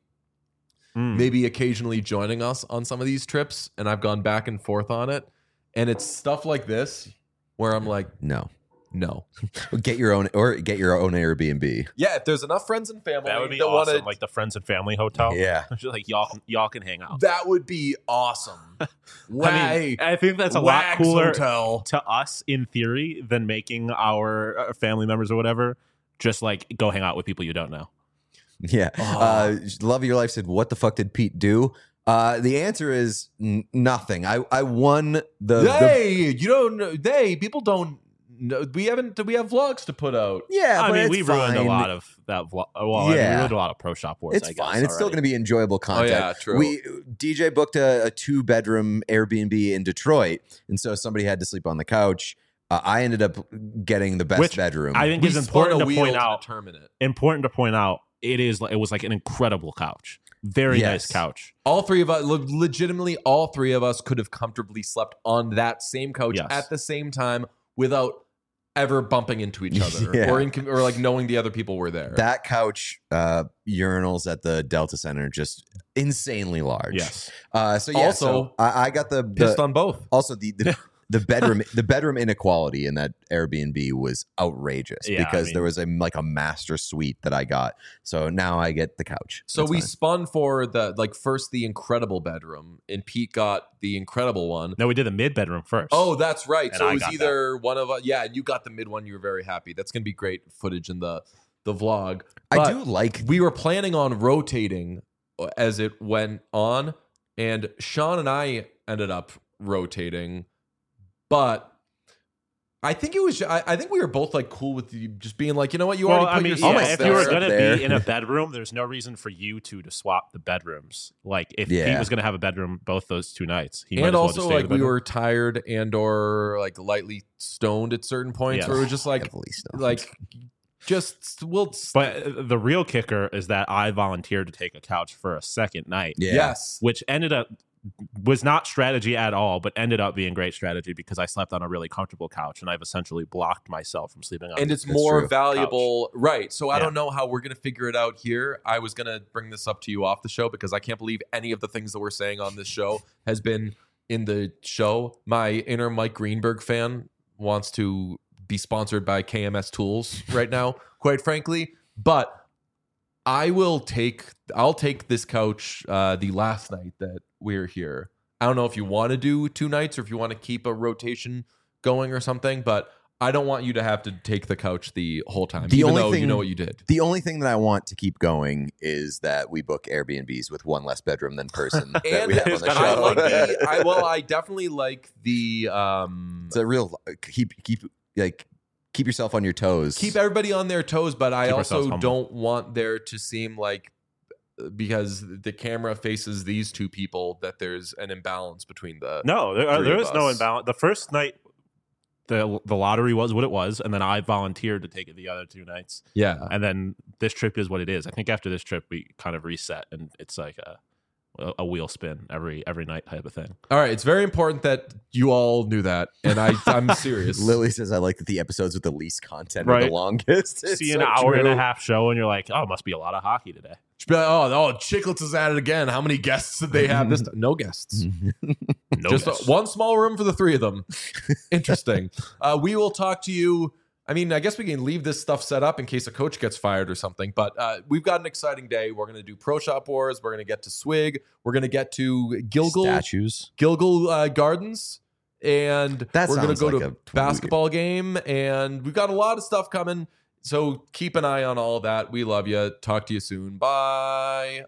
Mm. maybe occasionally joining us on some of these trips, and I've gone back and forth on it. And it's stuff like this where I'm like, No, no. get your own or get your own Airbnb. Yeah, if there's enough friends and family That would be that awesome. wanna- Like the friends and family hotel. Yeah, Just like y'all, can- y'all can hang out. that would be awesome. I Wag- mean, I think that's a lot Wags cooler Hotel. to us in theory than making our uh, family members or whatever just like go hang out with people you don't know. yeah. Oh. Uh, Love of Your Life said, "What the fuck did Pete do?" Uh, the answer is n- nothing. I I won the, the They, you don't know. They people don't know. We haven't. We have vlogs to put out. yeah. I but mean, it's we ruined fine. a lot of that. Vlog. Well, I mean, Yeah. we ruined a lot of Pro Shop Wars. It's I guess, fine. It's still already. going to be enjoyable content. yeah, true. We D J booked a, a two bedroom Airbnb in Detroit, and so somebody had to sleep on the couch. Uh, I ended up getting the best Which bedroom. I think We it's spun important a to wheel point out. determine it. Important to point out. It is. It was like an incredible couch. Very Yes. nice couch. All three of us, le- legitimately, all three of us could have comfortably slept on that same couch Yes. at the same time without ever bumping into each other Yeah. or in, or like knowing the other people were there. that couch uh, urinals at the Delta Center just insanely large. Yes. Uh, so yeah. Also, so I, I got the, the Pissed on both. also the the, the bedroom the bedroom inequality in that Airbnb was outrageous Yeah, I because mean- there was a like a master suite that I got. So now I get the couch. So That's we fine. spun for the like first the incredible bedroom, and Pete got the incredible one. No, we did the mid bedroom first. Oh, that's right. And So I it was got either one of us. Yeah, and you got the mid one. You were very happy. That's gonna be great footage in the the vlog. I But do like we were planning on rotating as it went on, and Sean and I ended up rotating, but I think it was. I, I think we were both like cool with you just being like, you know what, you well, already put I mean, yourself yeah, if there. you were up going to there. be in a bedroom, there's no reason for you two to swap the bedrooms. Like, if Yeah. Pete was going to have a bedroom both those two nights, he might And as well also, just stay in like, the we bedroom. were tired and or like lightly stoned at certain points, Yes. where it was just like, Heavily stoned. like, just we'll. But uh, the real kicker is that I volunteered to take a couch for a second night, yeah. Yes, which ended up was not strategy at all, but ended up being great strategy because I slept on a really comfortable couch and I've essentially blocked myself from sleeping on and a it's That's more true. valuable, right? So I Yeah. don't know how we're gonna figure it out here. I was gonna bring this up to you off the show because I can't believe any of the things that we're saying on this show has been in the show. My inner Mike Greenberg fan wants to be sponsored by K M S Tools right now, quite frankly. But I will take I'll take this couch uh, the last night that we're here. I don't know if you want to do two nights or if you want to keep a rotation going or something, but I don't want you to have to take the couch the whole time, The even only though thing- you know what you did. The only thing that I want to keep going is that we book Airbnbs with one less bedroom than person that And we have on the kinda I show. like the I well, I definitely like the um It's a real keep keep like keep yourself on your toes. keep everybody on their toes, but I Keep ourselves also humble. don't want there to seem like because the camera faces these two people that there's an imbalance between the No, there, Three there of is no us. imbalance. The first night, the the lottery was what it was, and then I volunteered to take it the other two nights, yeah. and then this trip is what it is. I think after this trip, we kind of reset, and it's like a a wheel spin every every night type of thing. All right, it's very important that you all knew that, and I I'm serious. Lily says I like that the episodes with the least content are Right. the longest. It's See an so hour and a true. half show, and you're like, oh, it must be a lot of hockey today. Be like, oh, oh, Chicklets is at it again. How many guests did they have this time? No guests. No, Just guess. a- one small room for the three of them. Interesting. uh, we will talk to you. I mean, I guess we can leave this stuff set up in case a coach gets fired or something. But uh, we've got an exciting day. We're going to do Pro Shop Wars. We're going to get to Swig. We're going to get to Gilgal Statues. Gilgal uh, Gardens, and That we're going to sounds go like to a a basketball game. And we've got a lot of stuff coming. So keep an eye on all that. We love you. Talk to you soon. Bye.